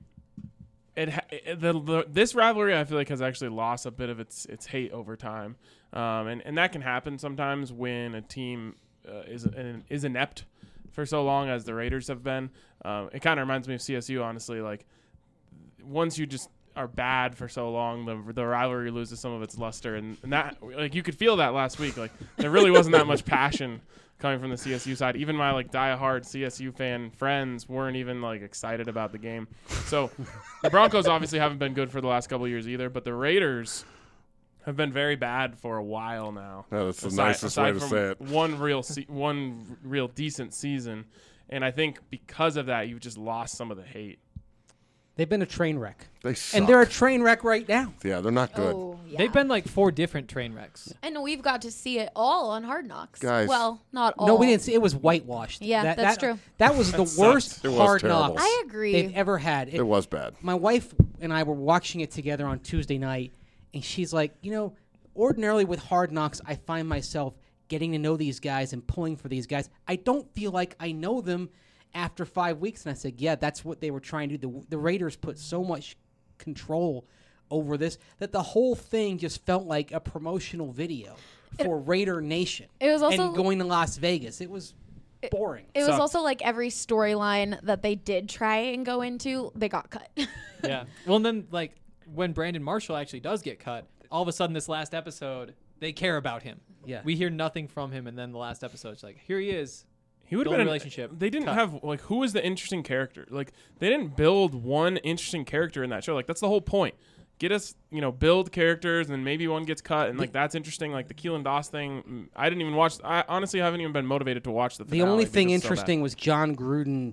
it, ha- it the, the this rivalry I feel like has actually lost a bit of its its hate over time, um, and and that can happen sometimes when a team uh, is an, is inept for so long as the Raiders have been. Um, it kind of reminds me of C S U, honestly. Like once you just are bad for so long, the the rivalry loses some of its luster, and, and that like you could feel that last week. Like there really wasn't that much passion coming from the C S U side. Even my like diehard C S U fan friends weren't even like excited about the game. So the Broncos obviously haven't been good for the last couple of years either, but the Raiders have been very bad for a while now. Yeah, that's the Aside- nicest aside way to from say it. One real se- one real decent season, and I think because of that, you've just lost some of the hate. They've been a train wreck. They suck. And they're a train wreck right now. Yeah, they're not good. Oh, yeah. They've been like four different train wrecks. And we've got to see it all on Hard Knocks. Guys. Well, not all. No, we didn't see it. Was whitewashed. Yeah, that, that's that- true. That was the sucked. worst It was Hard terrible. Knocks I agree. they've ever had. It was bad. My wife and I were watching it together on Tuesday night, and she's like, you know, ordinarily with Hard Knocks, I find myself getting to know these guys and pulling for these guys. I don't feel like I know them after five weeks. And I said, yeah, that's what they were trying to do. The, the Raiders put so much control over this that the whole thing just felt like a promotional video for Raider Nation. It was also- and going to Las Vegas. It was boring. It was Sucked. also like every storyline that they did try and go into, they got cut. Yeah. Well, and then like when Brandon Marshall actually does get cut, all of a sudden this last episode they care about him. Yeah. We hear nothing from him, and then the last episode, it's like, here he is. He would have Build been a an- relationship. They didn't Cut. have like who was the interesting character? Like they didn't build one interesting character in that show. Like that's the whole point. Get us, you know, build characters, and then maybe one gets cut, and like that's interesting. Like the Keelan Doss thing, mm, I didn't even watch. I honestly haven't even been motivated to watch the. The finale only because thing it's so bad. interesting was John Gruden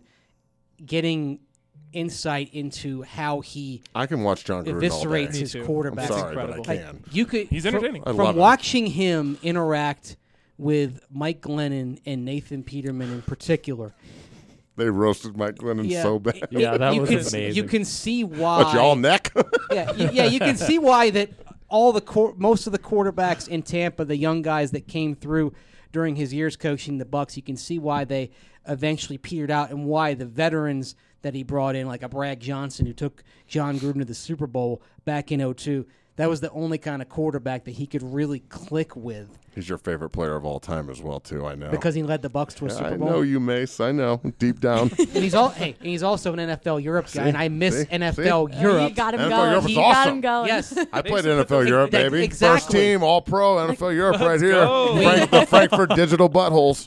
getting insight into how he I can watch John Gruden all day. eviscerates his Me too. quarterback. I'm sorry, but I incredible. Like, can. you could He's from- entertaining. I From, love him. watching him interact with Mike Glennon and Nathan Peterman in particular. They roasted Mike Glennon Yeah, so bad. it- Yeah, it- that you was can, amazing. You can see why. What, y'all neck? yeah, y- yeah, you can see why that all the quar- most of the quarterbacks in Tampa, the young guys that came through during his years coaching the Bucks, you can see why they eventually petered out, and why the veterans that he brought in, like a Brad Johnson who took John Gruden to the Super Bowl back in oh two, that was the only kind of quarterback that he could really click with He's your favorite player of all time as well, too. I know. because he led the Bucks to a Yeah, Super I Bowl. know you, Mace. I know. Deep down. And he's all hey, and he's also an N F L Europe guy, See? and I miss See? N F L See? Europe. You got him N F L going. Europe is You got awesome. him going. Yes. I played used to N F L put the- Europe, that- baby. exactly. First team, all pro, N F L Europe right here. go. Frank, the Frankfurt Digital Buttholes.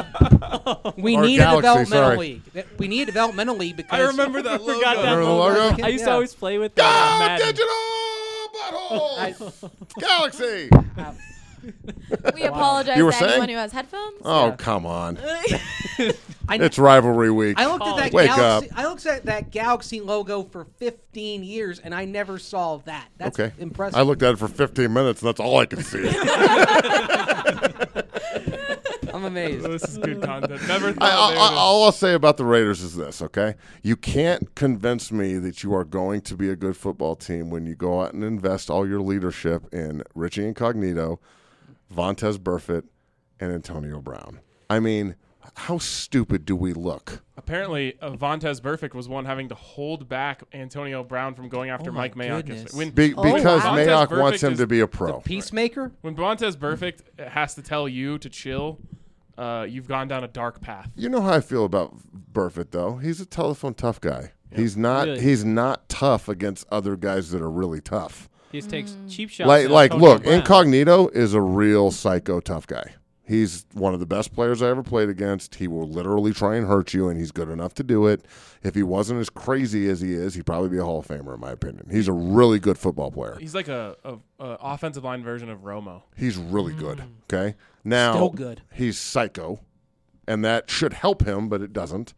We Or need Galaxy, a developmental sorry. league. We need a developmental league because I remember that logo. Forgot that Remember the logo. logo? I used Yeah. to always play with Go that. on Madden. Digital Buttholes! Galaxy! We apologize You were to anyone saying? who has headphones. Oh, come on. I, It's rivalry week. I looked at that Wake Galaxy. up. I looked at that Galaxy logo for fifteen years, and I never saw that. That's Okay. impressive. I looked at it for fifteen minutes, and that's all I could see. I'm amazed. This is good content. Never thought I, I, they I, would've- all I'll say about the Raiders is this, okay? You can't convince me that you are going to be a good football team when you go out and invest all your leadership in Richie Incognito, Vontez Burfict, and Antonio Brown. I mean, how stupid do we look? Apparently, uh, Vontez Burfict was one having to hold back Antonio Brown from going after Oh my Mike Mayock. goodness. yesterday. When, Be, Oh, because wow. Mayock Vontez wants Burfict him is to be a pro. Peacemaker. when Vontez Burfict has to tell you to chill, uh, you've gone down a dark path. You know how I feel about Burfict, though. He's a telephone tough guy. He's not. Really? He's not tough against other guys that are really tough. He just takes cheap shots. Like, at like, Antonio look, Brown. Incognito is a real psycho tough guy. He's one of the best players I ever played against. He will literally try and hurt you, and he's good enough to do it. If he wasn't as crazy as he is, he'd probably be a Hall of Famer, in my opinion. He's a really good football player. He's like a, a, a offensive line version of Romo. He's really good. Okay, now Still good. He's psycho, and that should help him, but it doesn't.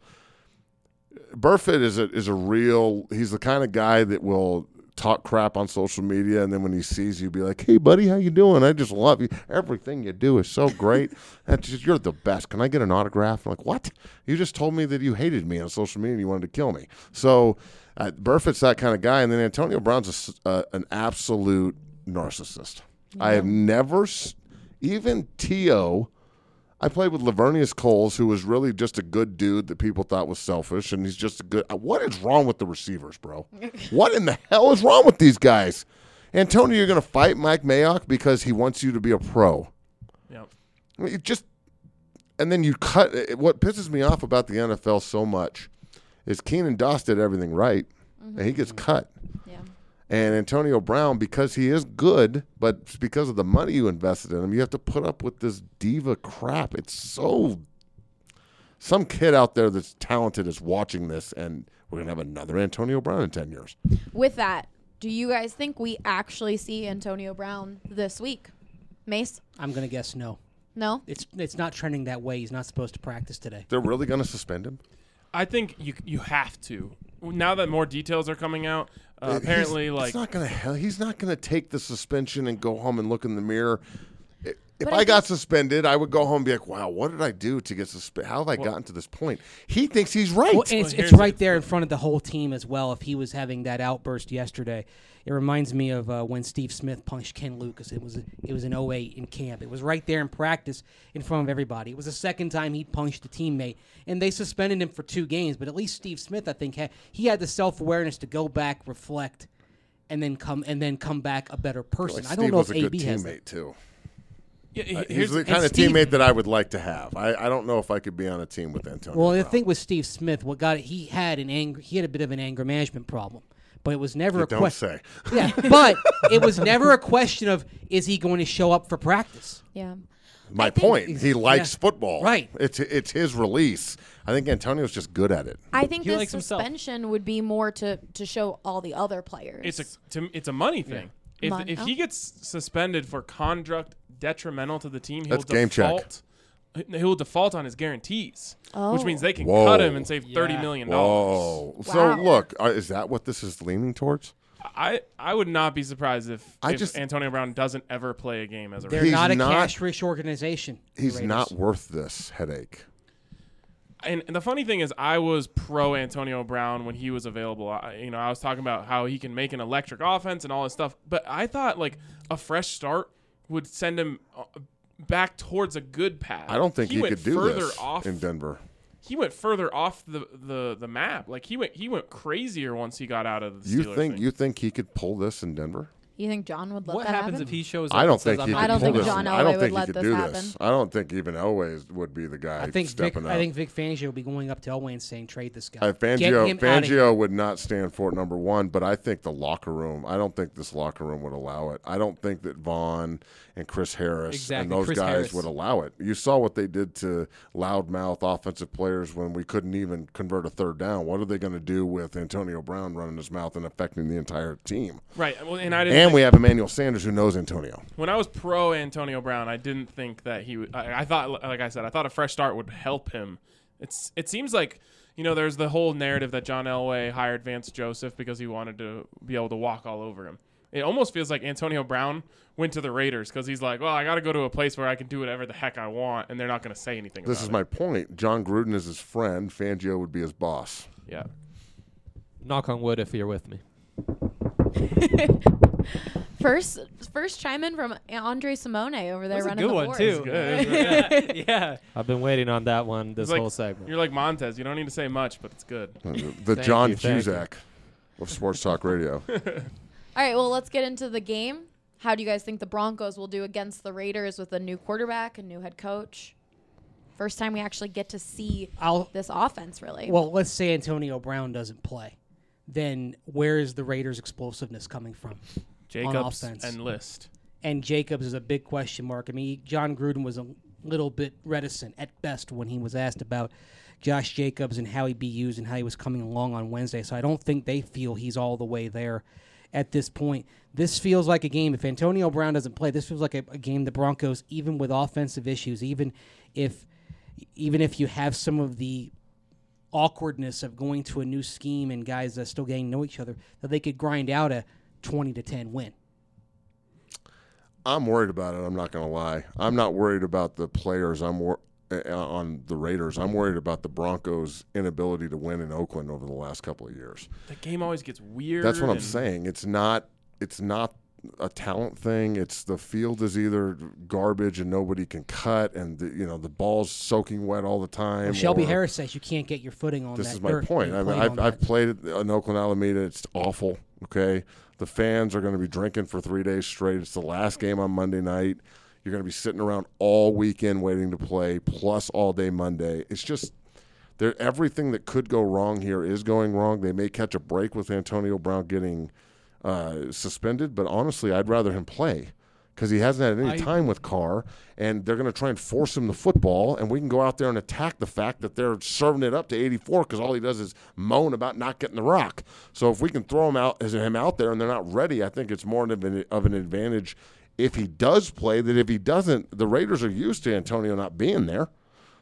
Burfitt is a is a real. He's the kind of guy that will talk crap on social media, and then when he sees you, be like, "Hey, buddy, how you doing? I just love you. Everything you do is so great. That's just, you're the best. Can I get an autograph?" I'm like, "What? You just told me that you hated me on social media and you wanted to kill me." So, uh, Burfitt's that kind of guy, and then Antonio Brown's a s uh, an absolute narcissist. I have never, s- even T O I played with Lavernius Coles, who was really just a good dude that people thought was selfish, and he's just a good. What is wrong with the receivers, bro? What in the hell is wrong with these guys? Antonio, you're going to fight Mike Mayock because he wants you to be a pro. Yep. I mean, it just, and then you cut. It, what pisses me off about the N F L so much is Keenan Doss did everything right, and he gets cut. Yeah. And Antonio Brown, because he is good, but it's because of the money you invested in him, you have to put up with this diva crap. It's so. Some kid out there that's talented is watching this, and we're going to have another Antonio Brown in ten years. With that, do you guys think we actually see Antonio Brown this week? Mace? I'm gonna guess no. No? It's it's not trending that way. He's not supposed to practice today. They're really going to suspend him? I think you you have to. Now that more details are coming out, uh, He's- apparently, it's like not gonna hell. He's not gonna take the suspension and go home and look in the mirror. I- If But I I got think- suspended, I would go home and be like, "Wow, what did I do to get suspended? How have I gotten to this point?" He thinks he's right. Well, and it's, Well, it's here's right the- there in front of the whole team as well. If he was having that outburst yesterday, it reminds me of uh, when Steve Smith punched Ken Lucas. It was it was in oh eight in camp. It was right there in practice in front of everybody. It was the second time he punched a teammate, and they suspended him for two games. But at least Steve Smith, I think, had, he had the self awareness to go back, reflect, and then come and then come back a better person. Like I don't Steve know was if a A good B has that. teammate too. yeah, Uh, here's he's the the- kind of Steve- teammate that I would like to have. I, I don't know if I could be on a team with Antonio. Well, the Brown. thing with Steve Smith, what got it, he had an anger, he had a bit of an anger management problem, but it was never You a don't question. say. Yeah, but it was never a question of is he going to show up for practice. Yeah. My I think- point. He likes Yeah. football. Right. It's it's his release. I think Antonio's just good at it. I think He this likes himself. suspension would be more to, to show all the other players. it's a to, it's a money thing. If Mon- if oh. he gets suspended for conduct detrimental to the team, he'll That's game check. default. He'll default on his guarantees, which Oh. means they can Whoa. cut him and save thirty Yeah. million dollars. Whoa. So Wow. look, uh, is that what this is leaning towards? I I would not be surprised if, I if just- Antonio Brown doesn't ever play a game as a They're Raider. He's not a not- cash-rich organization. the He's Raiders. not worth this headache. And, and the funny thing is, I was pro Antonio Brown when he was available. I, you know, I was talking about how he can make an electric offense and all this stuff. But I thought like a fresh start would send him uh, back towards a good path. I don't think he, went could do further this off. in Denver. He went further off the, the, the map. Like he went he went crazier once he got out of the You Steelers think thing. you think he could pull this in Denver? You think John would let What that happens happen? if he shows up? I don't and says, think he "I'm could I don't pull think this. John I Elway don't would think he let could this do happen. this. I don't think even Elway would be the guy I think Vic, stepping I up. think Vic Fangio will be going up to Elway and saying trade this guy. Uh, Get Fangio, him outta here. Fangio would not stand for it, number one, but I think the locker room, I don't think this locker room would allow it. I don't think that Vaughn and Chris Harris Exactly, and those Chris guys Harris. would allow it. You saw what they did to loudmouth offensive players when we couldn't even convert a third down. What are they going to do with Antonio Brown running his mouth and affecting the entire team? right. Well, and I didn't. And think- we have Emmanuel Sanders who knows Antonio. when I was pro Antonio Brown, I didn't think that he would. I, I thought, like I said, I thought a fresh start would help him. It's. It seems like, you know, there's the whole narrative that John Elway hired Vance Joseph because he wanted to be able to walk all over him. It almost feels like Antonio Brown went to the Raiders because he's like, well, I got to go to a place where I can do whatever the heck I want, and they're not going to say anything. This about is it. my point. John Gruden is his friend. Fangio would be his boss. Yeah. Knock on wood if you're with me. First, first chime in from Andre Simone over there That was a running good the one board. too. Good. yeah. yeah. I've been waiting on that one this It's like- whole segment. You're like Montez. You don't need to say much, but it's good. Uh, The Thank John you, thank you. Cusack of Sports Talk Radio. All right, well, let's get into the game. How do you guys think the Broncos will do against the Raiders with a new quarterback, a new head coach? First time we actually get to see I'll, this offense, really. well, let's say Antonio Brown doesn't play. Then where is the Raiders' explosiveness coming from? Jacobs offense. and List. And Jacobs is a big question mark. I mean, John Gruden was a little bit reticent at best when he was asked about Josh Jacobs and how he'd be used and how he was coming along on Wednesday. So I don't think they feel he's all the way there at this point. This feels like a game. If Antonio Brown doesn't play, this feels like a, a game the Broncos, even with offensive issues, even if even if you have some of the awkwardness of going to a new scheme and guys that still getting to know each other, that they could grind out a twenty to ten win. I'm worried about it. I'm not going to lie. I'm not worried about the players. I'm wor- uh, on the Raiders. I'm worried about the Broncos' inability to win in Oakland over the last couple of years. The game always gets weird. That's what I'm and- saying. It's not. It's not a talent thing. It's the field is either garbage and nobody can cut, and the, you know the ball's soaking wet all the time. Well, Shelby or- Harris says you can't get your footing on This that is my dirt. point. You I mean, played I've, on I've that. played it in Oakland Alameda. It's awful. Okay, the fans are going to be drinking for three days straight. It's the last game on Monday night. You're going to be sitting around all weekend waiting to play, plus all day Monday. It's just there. Everything that could go wrong here is going wrong. They may catch a break with Antonio Brown getting uh, suspended, but honestly, I'd rather him play because he hasn't had any I- time with Carr, and they're going to try and force him the football, and we can go out there and attack the fact that they're serving it up to eighty-four because all he does is moan about not getting the rock. So if we can throw him out as him out there and they're not ready, I think it's more of an, of an advantage if he does play than if he doesn't. The Raiders are used to Antonio not being there.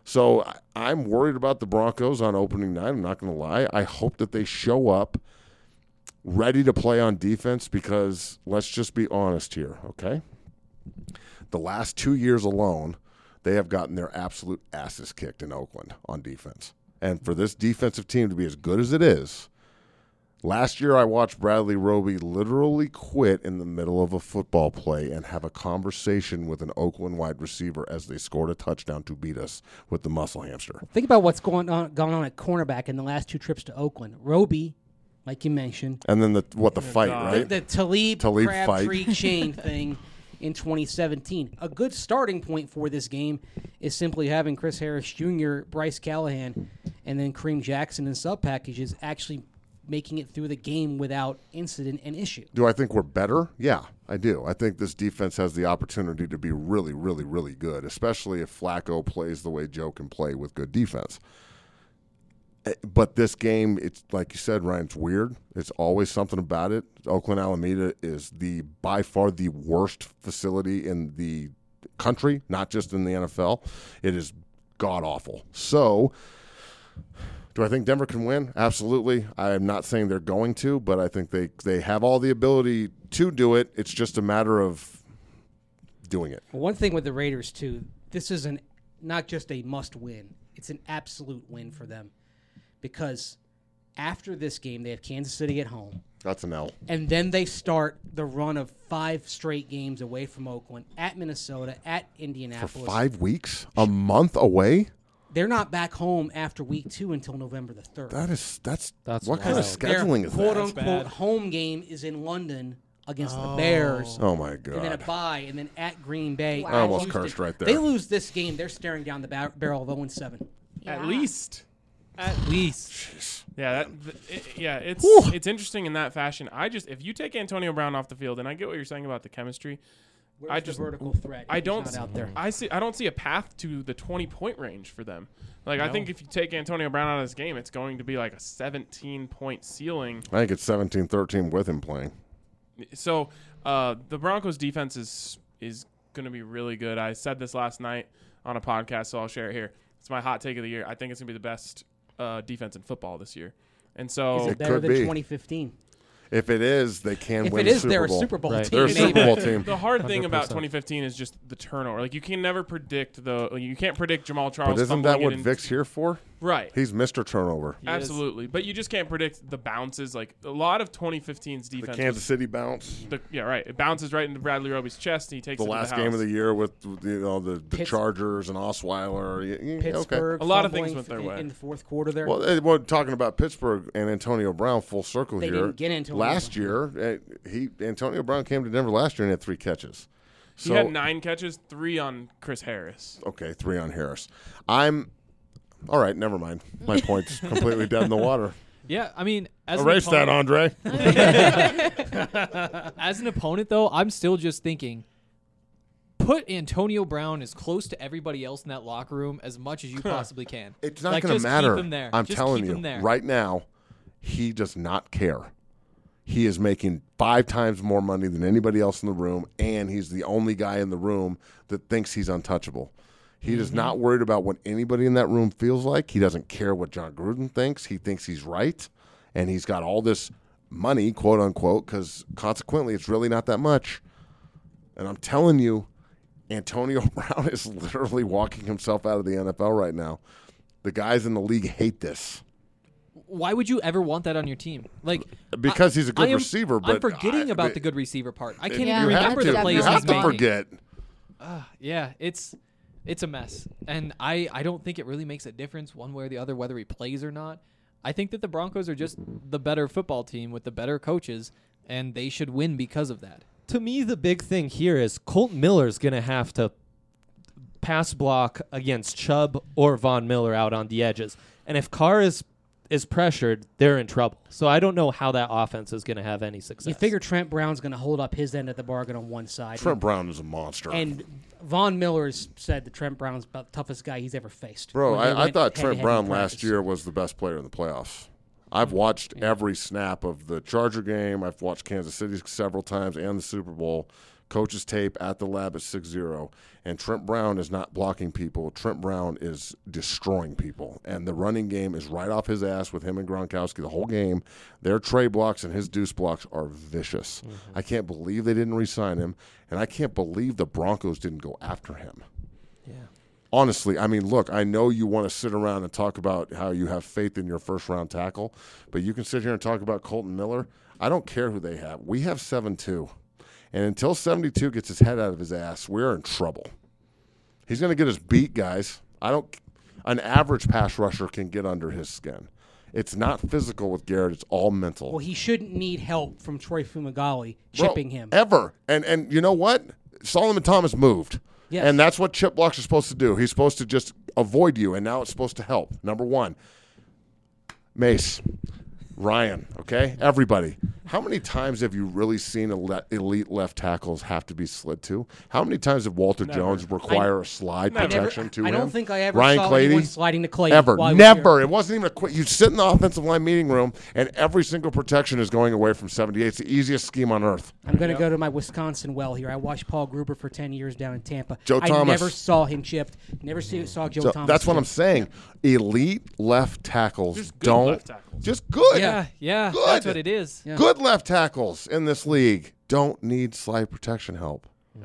So I, I'm worried about the Broncos on opening night. I'm not going to lie. I hope that they show up ready to play on defense because let's just be honest here, okay? The last two years alone, they have gotten their absolute asses kicked in Oakland on defense. And for this defensive team to be as good as it is, last year I watched Bradley Roby literally quit in the middle of a football play and have a conversation with an Oakland wide receiver as they scored a touchdown to beat us with the muscle hamster. Think about what's going on going on at cornerback in the last two trips to Oakland. Roby, like you mentioned. And then the what the fight, God. right? The, the Talib, Talib Crabtree fight. chain thing in twenty seventeen. A good starting point for this game is simply having Chris Harris Junior, Bryce Callahan, and then Kareem Jackson in sub packages actually making it through the game without incident and issue. Do I think we're better? Yeah, I do. I think this defense has the opportunity to be really, really, really good, especially if Flacco plays the way Joe can play with good defense. But this game, it's like you said, Ryan, it's weird. It's always something about it. Oakland Alameda is the by far the worst facility in the country, not just in the N F L. It is god-awful. So do I think Denver can win? Absolutely. I am not saying they're going to, but I think they, they have all the ability to do it. It's just a matter of doing it. One thing with the Raiders, too, this is an not just a must-win. It's an absolute win for them. Because after this game, they have Kansas City at home. That's an L. And then they start the run of five straight games away from Oakland, at Minnesota, at For Indianapolis. five weeks? A month away? They're not back home after week two until November the third. That is, that's, That's what kind of wild. scheduling Their is quote that? unquote home game is in London against the Bears. Oh, my And then a God. bye, and then at Green Bay. Wow. I almost Houston. cursed right there. They lose this game, they're staring down the bar- barrel of oh and seven. At Yeah. least. At least. Yeah, that, th- it, yeah, it's Whew. it's interesting in that fashion. I just if you take Antonio Brown off the field, and I get what you're saying about the chemistry, Where's I the just vertical threat? I He's don't not out there. I see I don't see a path to the twenty point range for them. Like I think if you take Antonio Brown out of this game, it's going to be like a seventeen point ceiling. I think it's seventeen thirteen with him playing. So uh, the Broncos defense is is going to be really good. I said this last night on a podcast, so I'll share it here. It's my hot take of the year. I think it's going to be the best uh, defense in football this year. And so Is it It better could than be. twenty fifteen? If it is, they can If win it the is, Super they're a Bowl. Super Bowl Right. team. They're a maybe. Super Bowl team. the hard thing one hundred about percent. twenty fifteen is just the turnover. Like you can never predict the you can't predict Jamal Charles. But isn't that fumbling what it in- Vic's here for? Right. He's Mister Turnover. He is. Absolutely. But you just can't predict the bounces. Like a lot of twenty fifteen's The defense. Kansas was- City bounce. the, yeah, right. It bounces right into Bradley Roby's chest. And he takes The it to last the game house. of the year with you know the, the Pitts- Chargers and Osweiler. Y- y- Okay. Pittsburgh. A lot of fumbling things went their in, way. in the fourth quarter there. Well, eh, well, talking about Pittsburgh and Antonio Brown, full circle They here. didn't get Antonio last Brown. year, eh, he Antonio Brown came to Denver last year and had three catches. He So had nine catches, three on Chris Harris. okay, three on Harris. I'm all right. Never mind. My point's completely dead in the water. Yeah, I mean, as Erase an that, opponent, Andre. as an opponent, though, I'm still just thinking, put Antonio Brown as close to everybody else in that locker room as much as you possibly can. It's not Like, going to just matter. Keep him there. I'm Just telling keep you him there. right now, he does not care. He is making five times more money than anybody else in the room, and he's the only guy in the room that thinks he's untouchable. He is not worried about what anybody in that room feels like. He doesn't care what John Gruden thinks. He thinks he's right, and he's got all this money, quote unquote, because consequently it's really not that much. And I'm telling you, Antonio Brown is literally walking himself out of the N F L right now. The guys in the league hate this. Why would you ever want that on your team? Like Because I- he's a good I am- receiver, but I'm forgetting I- about I- the good receiver part. I can't Yeah, even you have remember to. the plays You have he's to making. forget. Uh, yeah, it's it's a mess, and I I don't think it really makes a difference one way or the other whether he plays or not. I think that the Broncos are just the better football team with the better coaches, and they should win because of that. To me, the big thing here is Colton Miller's going to have to pass block against Chubb or Von Miller out on the edges. And if Carr is is pressured, they're in trouble. So I don't know how that offense is going to have any success. You figure Trent Brown's going to hold up his end of the bargain on one side. Trent Brown is a monster. And Von Miller's said that Trent Brown's about the toughest guy he's ever faced. Bro, when they I, I went thought Trent head-to-head Brown in last practice. year was the best player in the playoffs. I've watched every snap of the Charger game. I've watched Kansas City several times and the Super Bowl. coach's tape at the lab at six zero, and Trent Brown is not blocking people. Trent Brown is destroying people, and the running game is right off his ass with him and Gronkowski the whole game. Their trey blocks and his deuce blocks are vicious. Mm-hmm. I can't believe they didn't re-sign him, and I can't believe the Broncos didn't go after him. Yeah. Honestly, I mean, look, I know you want to sit around and talk about how you have faith in your first-round tackle, but you can sit here and talk about Colton Miller. I don't care who they have. We have seven two. And until seventy-two gets his head out of his ass, we're in trouble. He's going to get us beat, guys. I don't. An average pass rusher can get under his skin. It's not physical with Garrett. It's all mental. Well, he shouldn't need help from Troy Fumagalli Bro, chipping him. Ever. And and you know what? Solomon Thomas moved. Yes. And that's what chip blocks are supposed to do. He's supposed to just avoid you, and now it's supposed to help. Number one, Mace, Ryan, okay? Everybody. How many times have you really seen ele- elite left tackles have to be slid to? How many times did Walter Never. Jones require I- a slide Never. protection I never, to I him? don't think I ever Ryan saw Clady? anyone sliding to Clay. Ever. while he was Never. here. It wasn't even a quick. You sit in the offensive line meeting room, and every single protection is going away from seventy-eight. It's the easiest scheme on earth. I'm going to go to my Wisconsin well here. I watched Paul Gruber for ten years down in Tampa. Joe I Thomas. never saw him chipped. Never see, saw Joe So Thomas. that's what I'm chipped. saying. Elite left tackles Just good don't. left tackles. Just good. Yeah, yeah, Good. that's what it is. Yeah. Good left tackles in this league don't need slide protection help.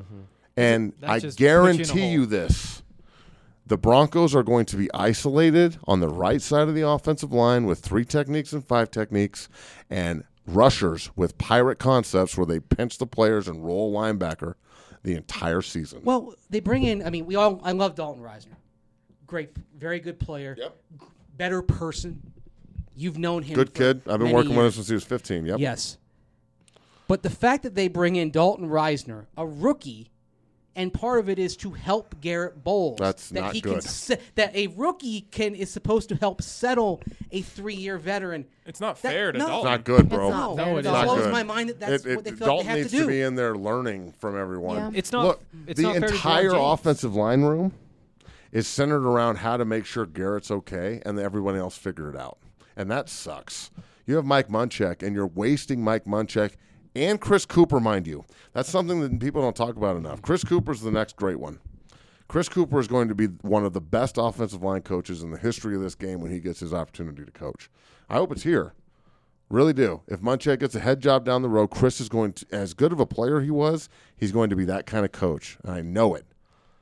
And That I just puts you in a guarantee hole. you this. The Broncos are going to be isolated on the right side of the offensive line with three techniques and five techniques, and rushers with pirate concepts where they pinch the players and roll linebacker the entire season. Well, they bring in. I mean, we all. I love Dalton Reisner. Great, very good player. Yep. Better person. You've known him. Good for kid. I've been many working with him years. since he was fifteen. Yep. Yes. But the fact that they bring in Dalton Reisner, a rookie, and part of it is to help Garrett Bowles. That's that not he good. Can se- that a rookie can is supposed to help settle a three-year veteran. It's not That- fair to no. Dalton. Not good, bro. It's not No, fair it to blows Not Dalton. good. my mind that that's It- it- what they feel Dalton like they have needs to do. be in there learning from everyone. Yeah. It's not. Look, it's the not fair to Jerome entire James. offensive line room is centered around how to make sure Garrett's okay and everyone else figure it out. And that sucks. You have Mike Munchak, and you're wasting Mike Munchak and Chris Cooper, mind you. That's something that people don't talk about enough. Chris Cooper's the next great one. Chris Cooper is going to be one of the best offensive line coaches in the history of this game when he gets his opportunity to coach. I hope it's here. Really do. If Munchak gets a head job down the road, Chris is going to, as good of a player he was, he's going to be that kind of coach. And I know it.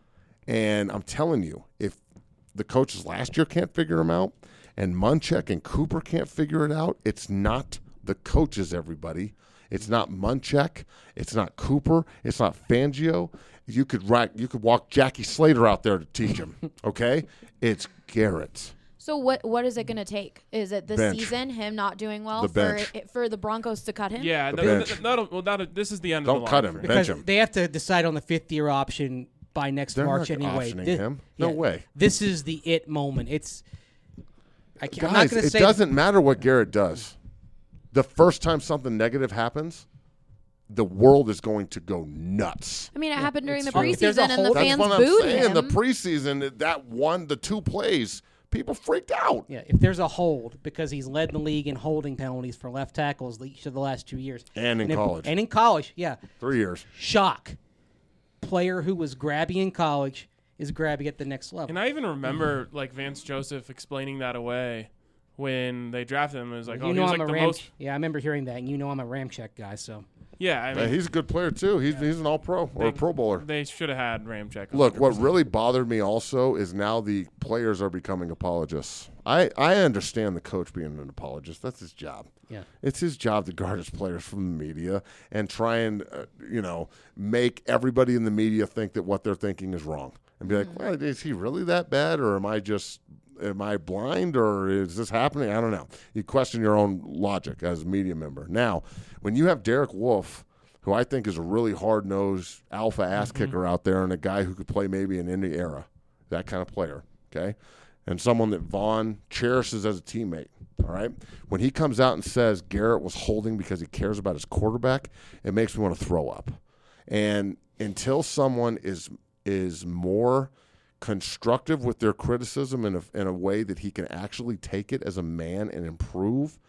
And I'm telling you, if the coaches last year can't figure him out and Munchak and Cooper can't figure it out, it's not the coaches, everybody. It's not Munchak. It's not Cooper. It's not Fangio. You could rack, you could walk Jackie Slater out there to teach him, okay? It's Garrett. So what what is it going to take? Is it this Bench. season, him not doing well The for bench. for the Broncos to cut him? Yeah, The that, bench. that, that'll, well, that'll, this is the end Don't of the cut line him. for Bench Because him. they have to decide on the fifth-year option by next They're March not anyway. optioning Thi- him. No way. This is the it moment. It's. I can't, I'm not Guys, going to it say doesn't matter what Garrett does. The first time something negative happens, the world is going to go nuts. I mean, it happened during the true. If there's a preseason, and the whole- That's fans what I'm booed saying. him. The preseason, that one, the two plays, people freaked out. Yeah, if there's a hold because he's led the league in holding penalties for left tackles each of the last two years, And in if- college. and in college, yeah, Three years. shock. Player who was grabby in college is grabby at the next level. And I even remember like Vance Joseph explaining that away when they drafted him. It was like, you oh, he know was I'm like a the Ram. most. Yeah, I remember hearing that, and you know I'm a Ramchek guy, so Yeah, I mean, Uh, he's a good player, too. He's, he's an all-pro or a they- pro bowler. They should have had Ramchek. Look, what really bothered me also is now the players are becoming apologists. I, I understand the coach being an apologist. That's his job. yeah. It's his job to guard his players from the media and try and, uh, you know, make everybody in the media think that what they're thinking is wrong. And be like, well, is he really that bad, or am I just, am I blind, or is this happening? I don't know. You question your own logic as a media member. Now, when you have Derek Wolfe, who I think is a really hard-nosed alpha ass kicker out there and a guy who could play maybe in any era, that kind of player, okay? And someone that Vaughn cherishes as a teammate, all right? When he comes out and says Garrett was holding because he cares about his quarterback, it makes me want to throw up. And until someone is is more constructive with their criticism in a, in a way that he can actually take it as a man and improve,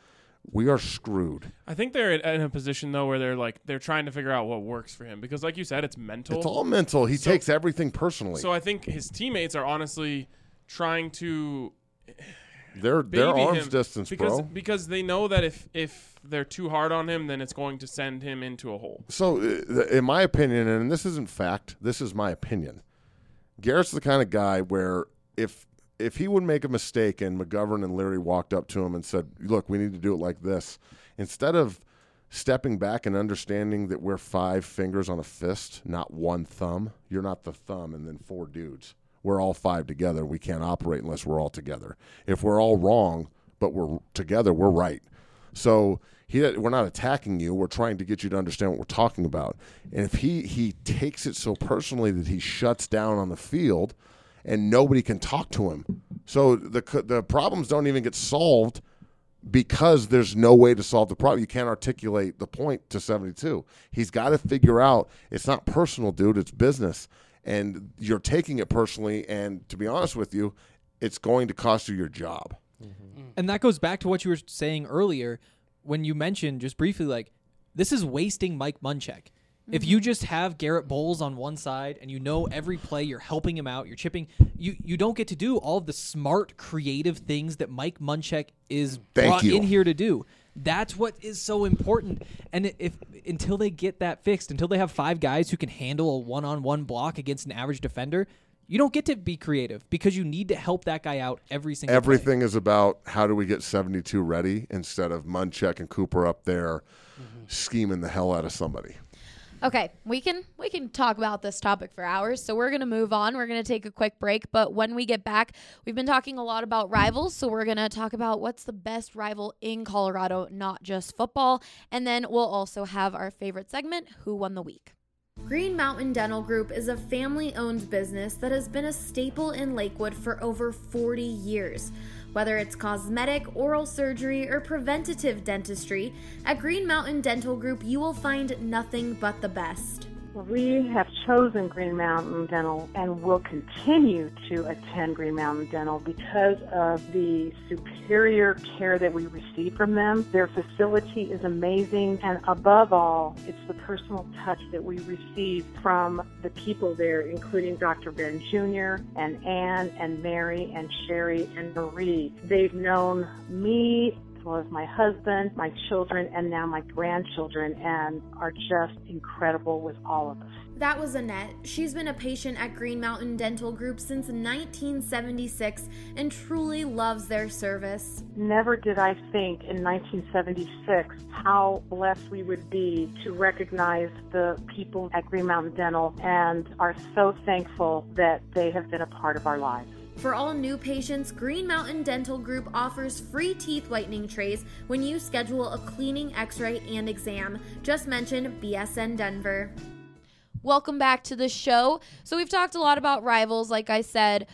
we are screwed. I think they're in a position though where they're like they're trying to figure out what works for him because, like you said, it's mental. It's all mental. He So- takes everything personally. So I think his teammates are honestly trying to they're they're baby arms him distance, because bro. because they know that if if they're too hard on him, then it's going to send him into a hole. So, uh, in my opinion, and this isn't fact, this is my opinion. Garrett's the kind of guy where if if he would make a mistake and McGovern and Leary walked up to him and said, "Look, we need to do it like this," instead of stepping back and understanding that we're five fingers on a fist, not one thumb. You're not the thumb and then four dudes. We're all five together. We can't operate unless we're all together. If we're all wrong, but we're together, we're right. So he, we're not attacking you. We're trying to get you to understand what we're talking about. And if he, he takes it so personally that he shuts down on the field and nobody can talk to him. So the the problems don't even get solved because there's no way to solve the problem. You can't articulate the point to seventy-two. He's got to figure out it's not personal, dude. It's business. And you're taking it personally. And to be honest with you, it's going to cost you your job. And that goes back to what you were saying earlier when you mentioned just briefly, like, this is wasting Mike Munchak. Mm-hmm. If you just have Garrett Bowles on one side and you know every play, you're helping him out, you're chipping, you, you don't get to do all of the smart, creative things that Mike Munchak is Thank brought you. in here to do. That's what is so important. And if until they get that fixed, until they have five guys who can handle a one-on-one block against an average defender, you don't get to be creative because you need to help that guy out every single Everything play. is about how do we get seventy-two ready instead of Munchak and Cooper up there mm-hmm. scheming the hell out of somebody. Okay, we can we can talk about this topic for hours, so we're going to move on. We're going to take a quick break, but when we get back, we've been talking a lot about rivals, so we're going to talk about what's the best rival in Colorado, not just football, and then we'll also have our favorite segment, Who Won the Week. Green Mountain Dental Group is a family-owned business that has been a staple in Lakewood for over forty years. Whether it's cosmetic, oral surgery, or preventative dentistry, at Green Mountain Dental Group you will find nothing but the best. We have chosen Green Mountain Dental and will continue to attend Green Mountain Dental because of the superior care that we receive from them. Their facility is amazing, and above all, it's the personal touch that we receive from the people there, including Doctor Ben Junior and Ann and Mary and Sherry and Marie. They've known me as well as my husband, my children, and now my grandchildren, and are just incredible with all of us. That was Annette. She's been a patient at Green Mountain Dental Group since nineteen seventy-six and truly loves their service. Never did I think in nineteen seventy-six how blessed we would be to recognize the people at Green Mountain Dental, and are so thankful that they have been a part of our lives. For all new patients, Green Mountain Dental Group offers free teeth whitening trays when you schedule a cleaning, x-ray, and exam. Just mention B S N Denver. Welcome back to the show. So we've talked a lot about rivals, like I said,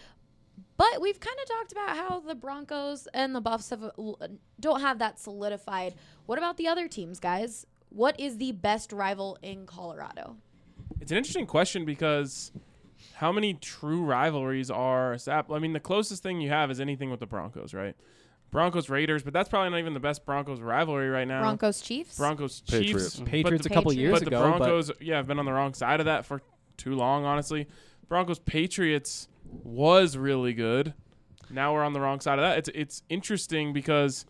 but we've kind of talked about how the Broncos and the Buffs have, don't have that solidified. What about the other teams, guys? What is the best rival in Colorado? It's an interesting question because how many true rivalries are established? I mean, the closest thing you have is anything with the Broncos, right? Broncos Raiders, but that's probably not even the best Broncos rivalry right now. Broncos Chiefs? Broncos Patriots. Chiefs. Patriots the, a couple Patriots. years but ago. the Broncos, yeah, have been on the wrong side of that for too long, honestly. Broncos Patriots was really good. Now we're on the wrong side of that. It's it's interesting because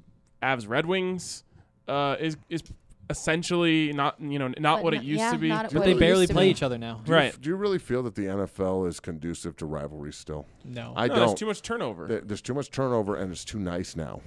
Avs Red Wings uh, is is essentially not you know not But what no- it used yeah, to be. not but what they it barely used to play be. each other now. Do you Right. f- do you really feel that the N F L is conducive to rivalry still? No. I No, don't. there's too much turnover. There- There's too much turnover, and it's too nice now.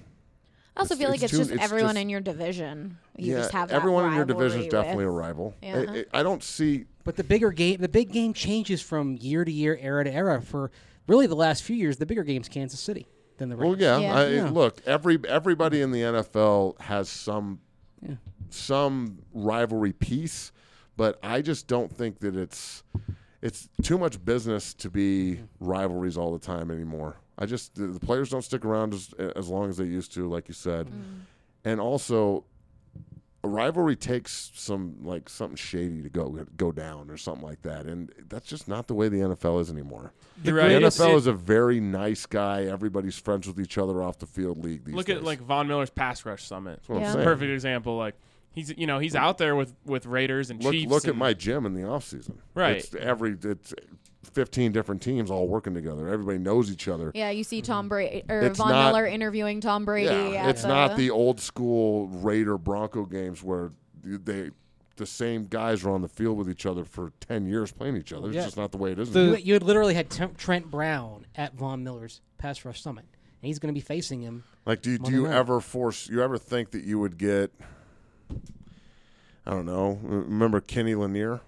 I also It's- feel like it's it's, too- just it's everyone just- in your division. You yeah, just have that everyone in your division is rivalry definitely with. a rival. Yeah. I, I- I don't see. But the bigger game, the big game changes from year to year, era to era. For really the last few years, the bigger game's Kansas City than the Well, Raiders. yeah. Yeah. I, Yeah. Look, every everybody in the N F L has some Yeah. some rivalry piece, but I just don't think that it's it's too much business to be rivalries all the time anymore. I just the, the players don't stick around as as long as they used to, like you said, Mm. and also a rivalry takes some like something shady to go go down or something like that, and that's just not the way the N F L is anymore. You're The right. N F L It- is a very nice guy. Everybody's friends with each other off the field league these Look days. at like Von Miller's pass rush summit. what I'm It's a saying. perfect example. Like he's you know he's out there with, with Raiders and look, Chiefs. look at and- my gym in the offseason. Right. It's every it's fifteen different teams all working together. Everybody knows each other. Yeah, you see Tom Brady or It's Von not- Miller interviewing Tom Brady. Yeah, at it's the, not the old school Raider Bronco games where they the same guys are on the field with each other for ten years playing each other. It's Yeah. just not the way it is. You, anymore. you had literally had T- Trent Brown at Von Miller's pass rush summit, and he's going to be facing him. Like, do you, do Monday you night. ever force? You ever think that you would get? I don't know. Remember Kenny Lanier,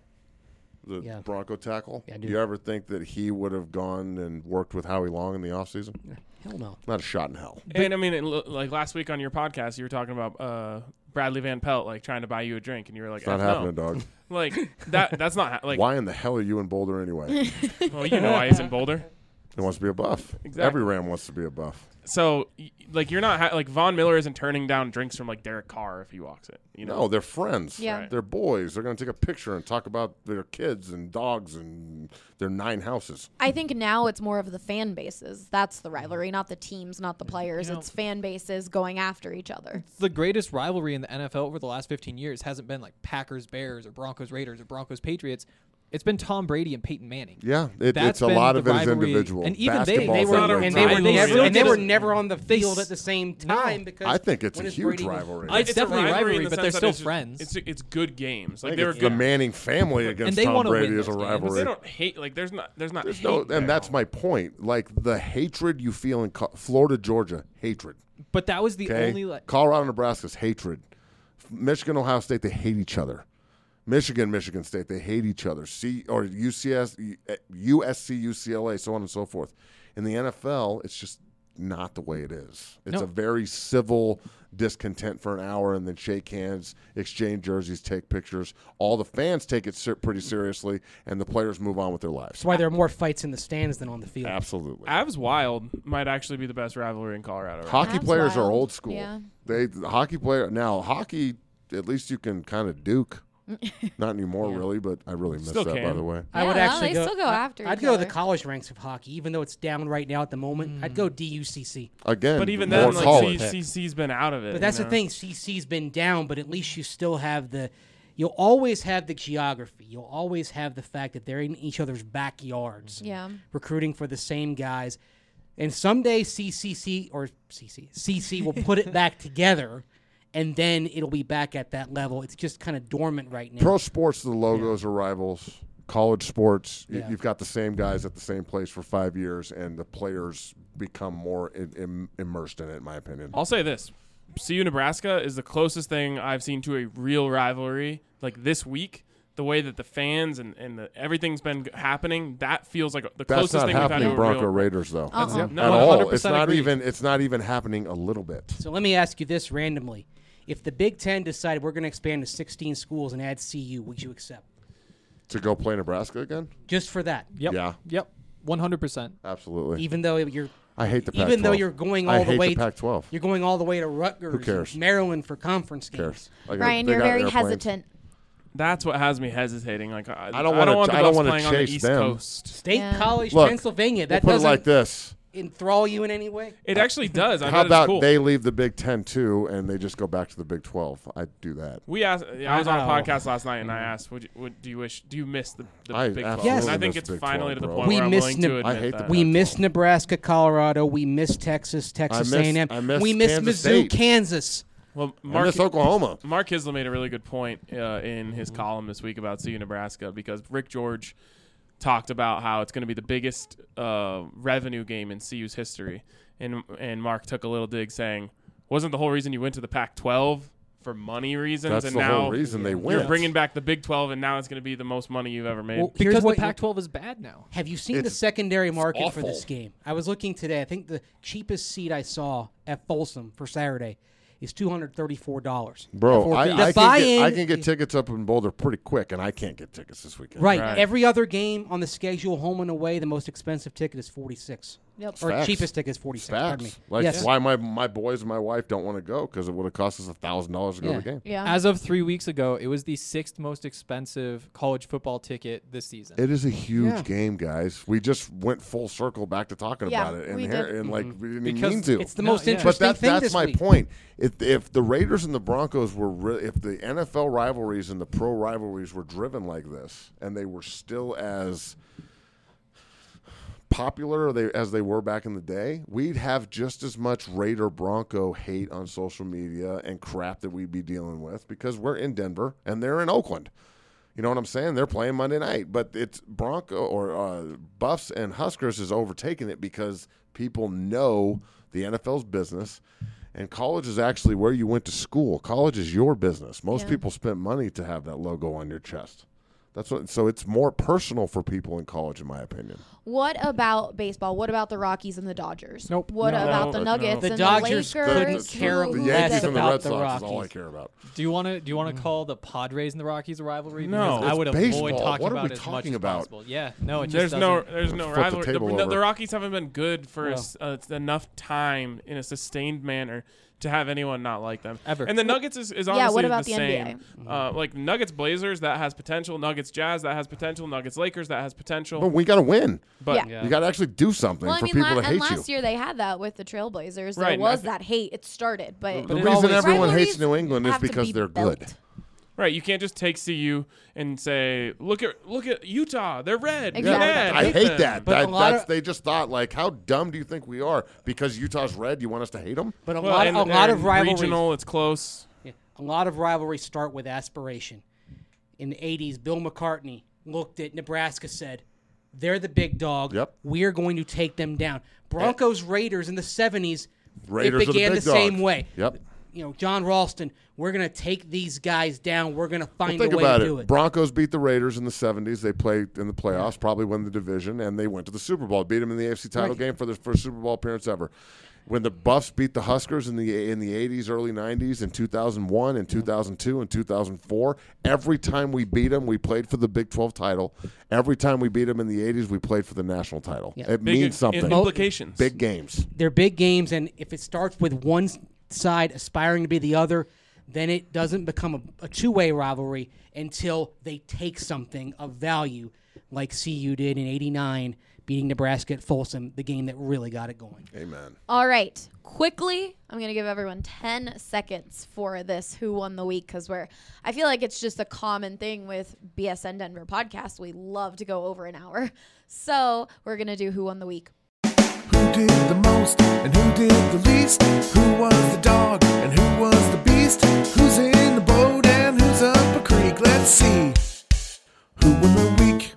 the Yeah. Bronco tackle? Yeah, I do. you ever think that he would have gone and worked with Howie Long in the offseason? Hell no. Not a shot in hell. And I mean, it, lo- like last week on your podcast, you were talking about uh, Bradley Van Pelt like trying to buy you a drink, and you were like, It's not "F happening, no." dog. Like that. That's not ha- like. Why in the hell are you in Boulder anyway? Well, you know why he's in Boulder. He wants to be a buff. Exactly. Every Ram wants to be a buff. So, y- like, you're not ha- like Von Miller isn't turning down drinks from like Derek Carr if he walks it. You know, No, they're friends. Yeah. They're boys. They're going to take a picture and talk about their kids and dogs and their nine houses. I think now it's more of the fan bases. That's the rivalry, not the teams, not the players. You know- it's fan bases going after each other. The greatest rivalry in the N F L over the last fifteen years hasn't been like Packers Bears or Broncos Raiders or Broncos Patriots. It's been Tom Brady and Peyton Manning. Yeah, it, That's it's a been lot the of it is rivalry. individual. And even they- Basketball they is were- another And they were rivalry. never, still and they were did it- never on the they field s- at the same No. time because I think it's when a is huge Brady- rivalry. It's definitely a in rivalry, the but sense they're that still it's just- friends. It's it's good games. I Like think they were it's the good. Manning family against they Tom wanna Brady win is a those games. But rivalry. they don't hate. Like there's not there's not There's hate no, there. and that's my point. Like the hatred you feel in Co- Florida, Georgia, hatred. But that was the Okay, only like Colorado, Nebraska's hatred. Michigan, Ohio State, they hate each other. Michigan, Michigan State, they hate each other. C or U C S, U S C, U C L A, so on and so forth. In the N F L, it's just not the way it is. It's No. a very civil discontent for an hour, and then shake hands, exchange jerseys, take pictures. All the fans take it ser- pretty seriously, and the players move on with their lives. That's why there are more fights in the stands than on the field. Absolutely. Avs Wild might actually be the best rivalry in Colorado. Right? Hockey Avs players are wild. old school. Yeah. They the hockey player now hockey. At least you can kind of duke. Not anymore, really, but I really miss Still that. By can. the way, I would Yeah, actually they go. still go I- after I'd each go to the other. college ranks of hockey, even though it's down right now at the moment. I'd go D U C C. again, But even more then, like college. C C's been out of it. But that's you the know? thing. C C's been down, but at least you still have the. You'll always have the geography. You'll always have the fact that they're in each other's backyards. Yeah. Recruiting for the same guys, and someday C C C or C C C C will put it back together, and then it'll be back at that level. It's just kind of dormant right now. Pro sports, the logos are rivals. College sports, y- Yeah. you've got the same guys at the same place for five years, and the players become more in, in, immersed in it. In my opinion, I'll say this: C U Nebraska is the closest thing I've seen to a real rivalry. Like this week, the way that the fans and, and the, everything's been g- happening, that feels like the that's closest not thing we've had to happening. a Bronco real. Raiders, though, Uh-uh. Yeah, at no, all. one hundred It's percent not agree. even. It's not even happening a little bit. So let me ask you this randomly: if the Big Ten decided we're going to expand to sixteen schools and add C U, would you accept? To go play Nebraska again? Just for that, Yep. Yeah, Yep. one hundred percent. absolutely. even though you're I hate the Pac twelve. even though you're going I all the hate way the Pac twelve. you're going all the way to Rutgers, Who cares? and Maryland for conference Who games. cares? I got- Ryan, they you're got very airplanes. hesitant. That's what has me hesitating. Like I, I don't I wanna- don't want the I don't Buffs wanna playing on the chase East them. Coast. State Yeah. College, Look, Pennsylvania. We'll That put it doesn't like this. enthrall you in any way. It actually does. I How bet about it's cool. they leave the Big Ten too, and they just go back to the Big Twelve? I'd do that. We asked. I was on a Oh. podcast last night, and I asked, "Would, you, would do you wish? Do you miss the, the I Big Twelve?" absolutely And I think miss it's Big finally to twelve, the bro. point We where I'm miss willing Neb- to admit I hate the that. Big We Pac miss twelve. Nebraska, Colorado. We miss Texas, Texas I miss- A and M. I miss We miss Kansas Mizzou, State. Kansas. Well, I Mark, miss Oklahoma. Mark Hisler made a really good point uh, in his column this week about C U Nebraska because Rick George talked about how it's going to be the biggest uh, revenue game in C U's history, and and Mark took a little dig saying, "Wasn't the whole reason you went to the Pac twelve for money reasons, That's and the now whole reason they you're went. bringing back the Big twelve, and now it's going to be the most money you've ever made." Well, here's Because the what- Pac twelve is bad now. Have you seen the It's- secondary market for awful. this game? I was looking today. I think the cheapest seat I saw at Folsom for Saturday is two hundred thirty-four dollars. Bro, I, The I, can get, buy-in I can get is- tickets up in Boulder pretty quick, and I can't get tickets this weekend. Right. Right. Every other game on the schedule, home and away, the most expensive ticket is forty-six. Yep. Or Facts. cheapest ticket is forty cents. Pardon me. Facts. Like Yes. why my my boys and my wife don't want to go because it would have cost us a thousand dollars to go Yeah. to the game. Yeah. As of three weeks ago, it was the sixth most expensive college football ticket this season. It is a huge Yeah. game, guys. We just went full circle back to talking Yeah, about it, and, we here, did. and like we didn't even Because mean to. It's the No, most yeah. But interesting that, thing that's this my week. point. If if the Raiders and the Broncos were, re- if the N F L rivalries and the pro rivalries were driven like this, and they were still as popular they, as they were back in the day, we'd have just as much Raider Bronco hate on social media and crap that we'd be dealing with because we're in Denver and they're in Oakland. You know what I'm saying? They're playing Monday night, but it's Bronco or uh, Buffs and Huskers is overtaking it because people know the N F L's business, and college is actually where you went to school. College is your business. Most Yeah. people spent money to have that logo on your chest. That's what. So it's more personal for people in college, in my opinion. What about baseball? What about the Rockies and the Dodgers? Nope. What No. about No. the Nuggets The and Dodgers the couldn't Lakers? care Who- The who Yankees does and the it? Red about the Sox is all I Rockies. care about. Do you want to do you want to call the Padres and the Rockies a rivalry? No. Because I It's would baseball. avoid talking What are about we it as much talking as about? possible. Yeah, no, it just There's no, doesn't- there's no Flip the rivalry. The, table the, over. the Rockies haven't been good for a Well. s uh, enough time in a sustained manner to have anyone not like them Ever. And the Nuggets is, is Yeah, honestly what about the the N B A? same. Uh, like Nuggets Blazers that has potential. Nuggets Jazz that has potential. Nuggets Lakers that has potential. But we got to win. But Yeah. You got to actually do something Well, I for mean, people la- to and hate you. last year they had that with the Trailblazers. There Right, and I was thi- that hate. It started, but, the it reason always- everyone rivalries hates New England is have to because be they're built. good. right, you can't just take C U and say, look at look at Utah. They're red. Exactly. You're Yeah, mad. I hate them." that. But a that lot that's, of- they just thought, like, how dumb do you think we are? Because Utah's red, you want us to hate them? But a Well, lot, and a lot they're of rivalries. regional. It's close. Yeah, a lot of rivalries start with aspiration. In the eighties, Bill McCartney looked at Nebraska, said, "They're the big dog. Yep. We're going to take them down." Broncos Raiders in the seventies, Raiders are it the began big the, same dog. way. Yep. You know, John Ralston, we're going to take these guys down. We're going to Well, find think a way about to it. do it. Broncos beat the Raiders in the seventies. They played in the playoffs, probably won the division, and they went to the Super Bowl. Beat them in the A F C title Right. game for their first Super Bowl appearance ever. When the Buffs beat the Huskers in the in the eighties, early nineties, in two thousand one, and two thousand two, and two thousand four, every time we beat them, we played for the Big twelve title. Every time we beat them in the eighties, we played for the national title. Yeah. It Big means im- something. implications. Big games. They're big games, and if it starts with one s- side aspiring to be the other, then it doesn't become a, a two-way rivalry until they take something of value, like C U did in eighty-nine, beating Nebraska at Folsom, the game that really got it going. Amen. All right. Quickly, I'm going to give everyone ten seconds for this Who Won the Week because we're, I feel like it's just a common thing with B S N Denver podcast. We love to go over an hour. So we're going to do Who Won the Week. Who did the most and who did the least? Who was the dog and who was the beast? Who's in the boat and who's up a creek? Let's see. Who won the week?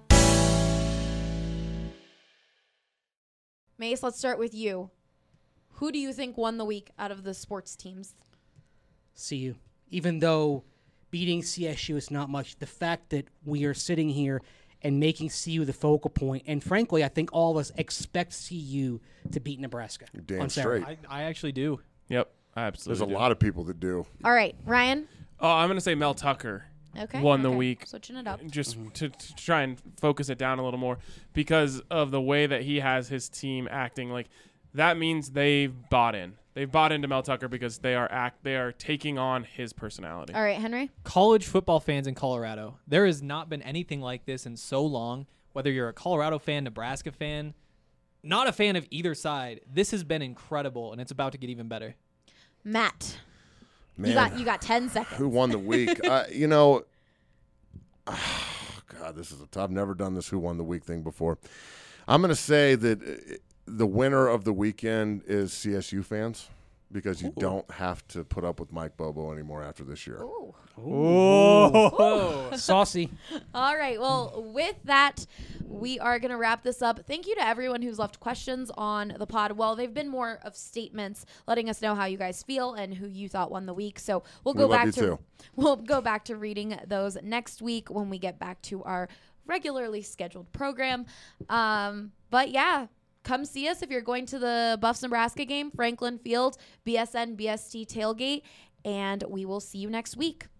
Mace, let's start with you. Who do you think won the week out of the sports teams? C U. Even though beating C S U is not much, the fact that we are sitting here and making C U the focal point, and frankly, I think all of us expect C U to beat Nebraska Damn on Saturday. straight. I, I actually do. Yep, There's absolutely. a do. lot of people that do. All right, Ryan. Oh, I'm gonna say Mel Tucker. Okay. Won the okay. week. Switching it up. Just to, to try and focus it down a little more because of the way that he has his team acting. Like that means they've bought in. They've bought into Mel Tucker because they are act. They are taking on his personality. All right, Henry. College football fans in Colorado. There has not been anything like this in so long. Whether you're a Colorado fan, Nebraska fan, not a fan of either side, this has been incredible, and it's about to get even better. Matt. Man, You got you got ten seconds. who won the week? uh, you know, oh, God, this is a tough. I've never done this who won the week thing before. I'm going to say that uh, the winner of the weekend is C S U fans because you Ooh. don't have to put up with Mike Bobo anymore after this year. Ooh. Oh, Saucy. All right. Well, with that, we are going to wrap this up. Thank you to everyone who's left questions on the pod. Well, they've been more of statements letting us know how you guys feel and who you thought won the week. So we'll We go love back you to too. we'll go back to reading those next week when we get back to our regularly scheduled program. Um, but yeah, come see us if you're going to the Buffs Nebraska game, Franklin Field, B S N B S T tailgate, and we will see you next week.